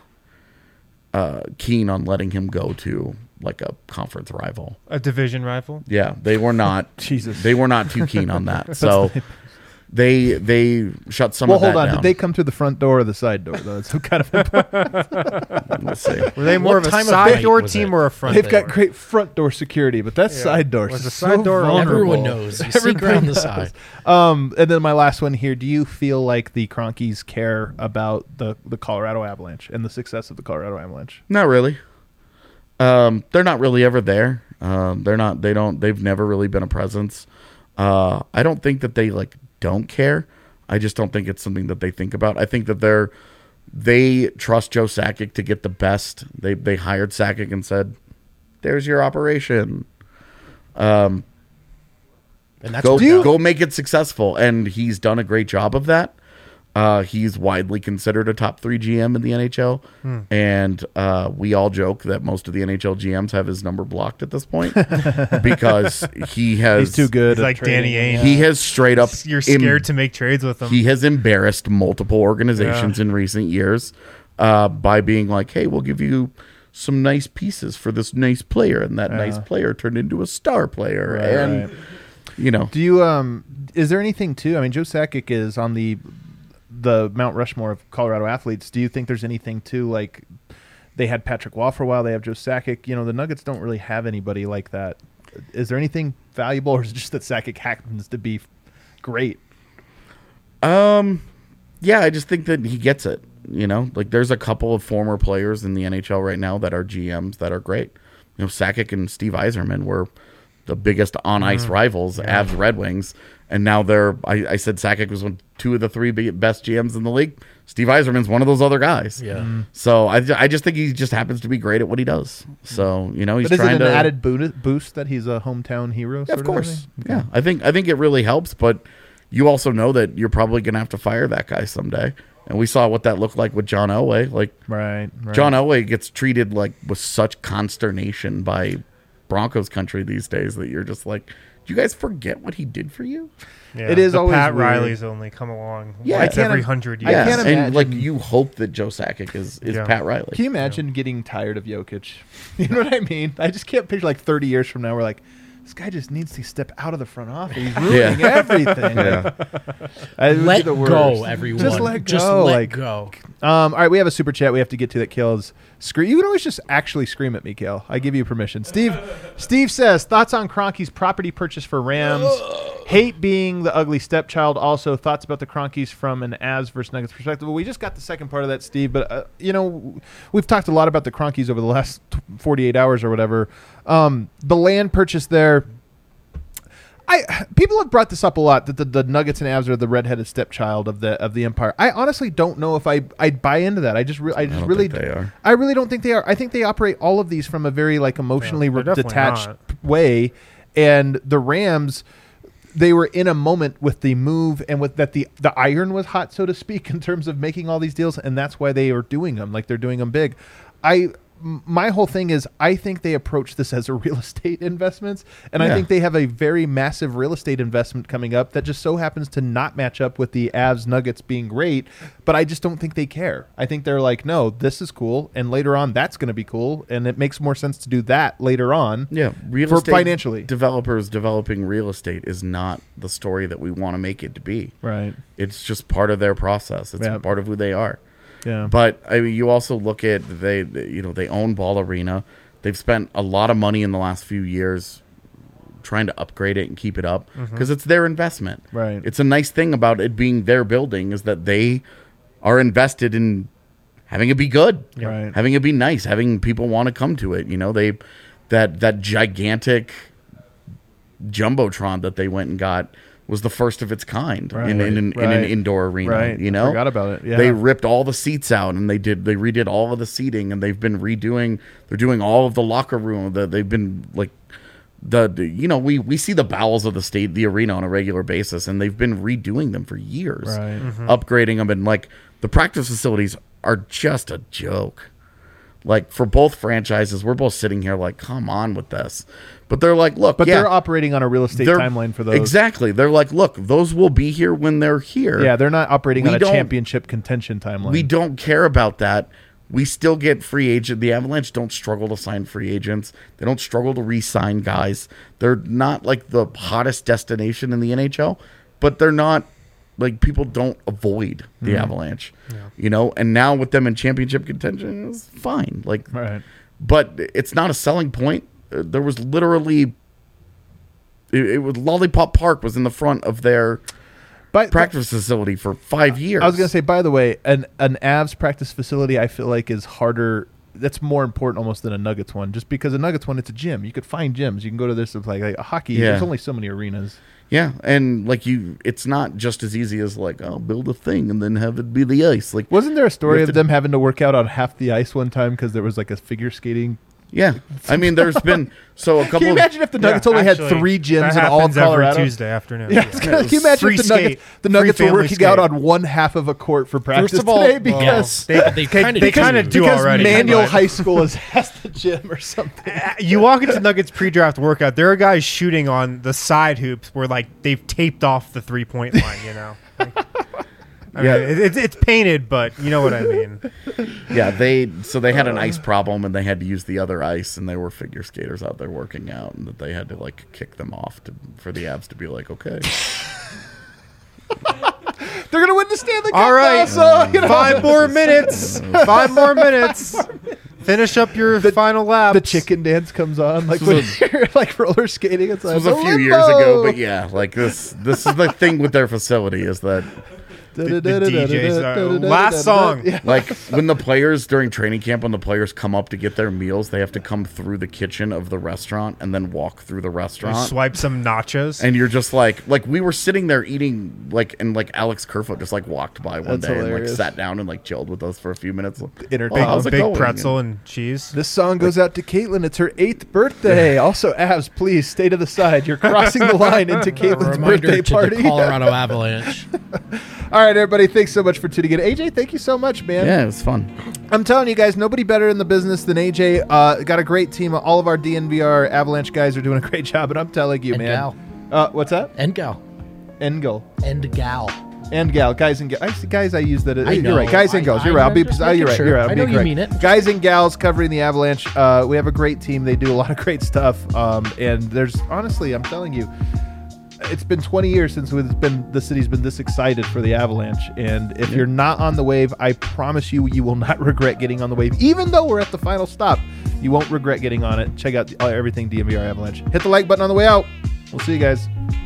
uh, keen on letting him go to like a conference rival. A division rival. Yeah, they were not. Jesus. They were not too keen on that. So they they shut some Well, of that hold on. down. Did they come through the front door or the side door? Though it's kind of important. Let's see. Were they more What of a time of side night door was team it? or a front They've door? got great front door security, but that Yeah. side door Was is the so side door vulnerable. Everyone knows. You sneak Everybody around the knows. side. Um, and then my last one here: do you feel like the Cronkies care about the the Colorado Avalanche and the success of the Colorado Avalanche? Not really. Um, they're not really ever there. Um, they're not. They don't. They've never really been a presence. Uh, I don't think that they like don't care. I just don't think it's something that they think about. I think that they're they trust Joe Sakic to get the best. They they hired Sakic and said, "There's your operation. Um, And that's go worked out. go make it successful." And he's done a great job of that. Uh, he's widely considered a top three G M in the N H L, Hmm. and uh, we all joke that most of the N H L G Ms have his number blocked at this point because he has He's too good. He's at like trading. Danny Ainge. He has straight up. You're em- scared to make trades with them. He has embarrassed multiple organizations in recent years uh, by being like, "Hey, we'll give you some nice pieces for this nice player," and that nice player turned into a star player, Right, and right. you know. Do you um? Is there anything too? I mean, Joe Sakic is on the the Mount Rushmore of Colorado athletes. Do you think there's anything too, like they had Patrick Waugh for a while, they have Joe Sakic? You know, the Nuggets don't really have anybody like that. Is there anything valuable, or is it just that Sakic happens to be great? Um, yeah, I just think that he gets it. You know, like there's a couple of former players in the N H L right now that are G Ms that are great. You know, Sakic and Steve Yzerman were the biggest on ice rivals, Avs Red Wings, and now they're. I, I said Sakic was one, two of the three big, best G Ms in the league. Steve Yzerman's one of those other guys. Yeah. So I, ju- I just think he just happens to be great at what he does. So you know, he's But is it trying an to added boo- boost that he's a hometown hero? Yeah, sort of course. thing? Yeah, I think I think it really helps, but you also know that you're probably going to have to fire that guy someday. And we saw what that looked like with John Elway. Like Right, right. John Elway gets treated like with such consternation by Broncos country these days that you're just like, do you guys forget what he did for you? Yeah, It is the always Pat weird. Riley's only come along Yeah, I once can't every im- hundred I years. can't and imagine- like you hope that Joe Sakic is is Yeah. Pat Riley. Can you imagine getting tired of Jokic? You know what I mean? I just can't picture like thirty years from now, we're like, this guy just needs to step out of the front office. He's ruining Yeah. everything. Yeah. It would be Let the worst. go, everyone. Just let go. Just let like, go. Um, all right, we have a super chat we have to get to that kills. Scream. You can always just actually scream at me, Kale. I give you permission. Steve Steve says, thoughts on Kroenke's property purchase for Rams. Hate being the ugly stepchild. Also, thoughts about the Kroenkes from an Avs versus Nuggets perspective. Well, we just got the second part of that, Steve. But, uh, you know, we've talked a lot about the Kroenkes over the last forty-eight hours or whatever. Um, the land purchase there. I people have brought this up a lot that the, the Nuggets and Avs are the redheaded stepchild of the of the empire. I honestly don't know if I I buy into that. I just re- I just don't really think they are. I really don't think they are. I think they operate all of these from a very like emotionally Yeah, they're re- definitely detached not. way, and the Rams. They were in a moment with the move and with that the the iron was hot, so to speak, in terms of making all these deals, and that's why they are doing them like they're doing them big. I m- my whole thing is I think they approach this as a real estate investments, and I Yeah. think they have a very massive real estate investment coming up that just so happens to not match up with the Avs Nuggets being great. But I just don't think they care. I think they're like, no, this is cool, and later on that's going to be cool, and it makes more sense to do that later on. Yeah, real For estate financially. developers developing real estate is not the story that we want to make it to be. Right. It's just part of their process. It's Yeah. part of who they are. Yeah. But I mean, you also look at they, they- you know, they own Ball Arena. They've spent a lot of money in the last few years trying to upgrade it and keep it up because it's their investment. Right. It's a nice thing about it being their building is that they are invested in having it be good, Right. having it be nice, having people want to come to it. You know, they that that gigantic jumbotron that they went and got was the first of its kind Right. in, in, in, Right. in an indoor arena. Right. You I know, forgot about it. Yeah. They ripped all the seats out and they did they redid all of the seating and they've been redoing. They're doing all of the locker room. The, they've been like the, the you know we we see the bowels of the state the arena on a regular basis and they've been redoing them for years, Right. Mhm. upgrading them and like the practice facilities are just a joke. Like for both franchises, we're both sitting here like, come on with this. But they're like, look, But yeah, they're operating on a real estate they're- timeline for those. Exactly. They're like, look, those will be here when they're here. Yeah, they're not operating We on a don't- championship contention timeline. We don't care about that. We still get free agent. The Avalanche don't struggle to sign free agents. They don't struggle to re-sign guys. They're not like the hottest destination in the N H L, but they're not like people don't avoid the Mm-hmm. Avalanche, you know. And now with them in championship contention, it's fine. Like, Right. but it's not a selling point. Uh, there was literally, it, it was Lollipop Park was in the front of their But practice facility for five years. I was going to say, by the way, an an Avs practice facility, I feel like is harder. That's more important almost than a Nuggets one, just because a Nuggets one, it's a gym. You could find gyms. You can go to this. It's like, like a hockey. Yeah. There's only so many arenas. Yeah, and like you, it's not just as easy as like, oh, build a thing and then have it be the ice. Like, Wasn't there a story You of have to- them having to work out on half the ice one time because there was like a figure skating? yeah, I mean, there's been so a couple. Can you of, imagine if the Yeah, Nuggets only actually, had three gyms that in all of happens every Colorado? Tuesday afternoon. Yeah, it's gonna- can you imagine Free if the Nuggets, skate, the Nuggets free were family working out skate. on one half of a court for practice First of all, today because They, They they, kinda they do. kind of do because already. Manual but- High School is, has the gym or something. Uh, you walk into Nuggets pre-draft workout, there are guys shooting on the side hoops where like they've taped off the three-point line. You know, like, I Yeah. mean, it, it's it's painted, but you know what I mean. yeah, they so they had an ice problem and they had to use the other ice and there were figure skaters out there working out and that they had to like kick them off to for the Avs to be like, okay, They're gonna win the Stanley Cup. All right, now, so, you know. five more minutes. Five more minutes. Finish up your final lap. The chicken dance comes on, like when you're like roller skating. It's like this was a few years ago, but yeah, like this this is the thing with their facility is that the D Js. Last song. Yeah. like when the players during training camp when the players come up to get their meals, they have to come through the kitchen of the restaurant and then walk through the restaurant. Swipe some nachos. And you're just like, like we were sitting there eating, like, and like Alex Kerfoot just like walked by one That's day and hilarious. like sat down and like chilled with us for a few minutes. Entertainment. Oh, how's it big going? pretzel and cheese. This song goes out to Caitlin. It's her eighth birthday. Also, Avs, please stay to the side. You're crossing the line into A Caitlin's reminder birthday to party. the Colorado Avalanche. All right, everybody. Thanks so much for tuning in. A J, thank you so much, man. Yeah, it was fun. I'm telling you guys, nobody better in the business than A J. Uh, got a great team. All of our D N V R Avalanche guys are doing a great job, and I'm telling you, And man. gal. Uh, what's that? And gal. Engel. And gal. And gal, guys and gals. I see, guys, I use that. I you're know. right, guys and I- gals. You're I- right. I'll be. I'm just oh, you're making right. sure. You're right. I'll I be know you correct. mean it. Guys and gals covering the Avalanche. Uh, we have a great team. They do a lot of great stuff. Um, and there's honestly, I'm telling you, it's been twenty years since it's been the city's been this excited for the Avalanche. And if you're not on the wave, I promise you, you will not regret getting on the wave. Even though we're at the final stop, you won't regret getting on it. Check out the, uh, everything D N V R Avalanche. Hit the like button on the way out. We'll see you guys.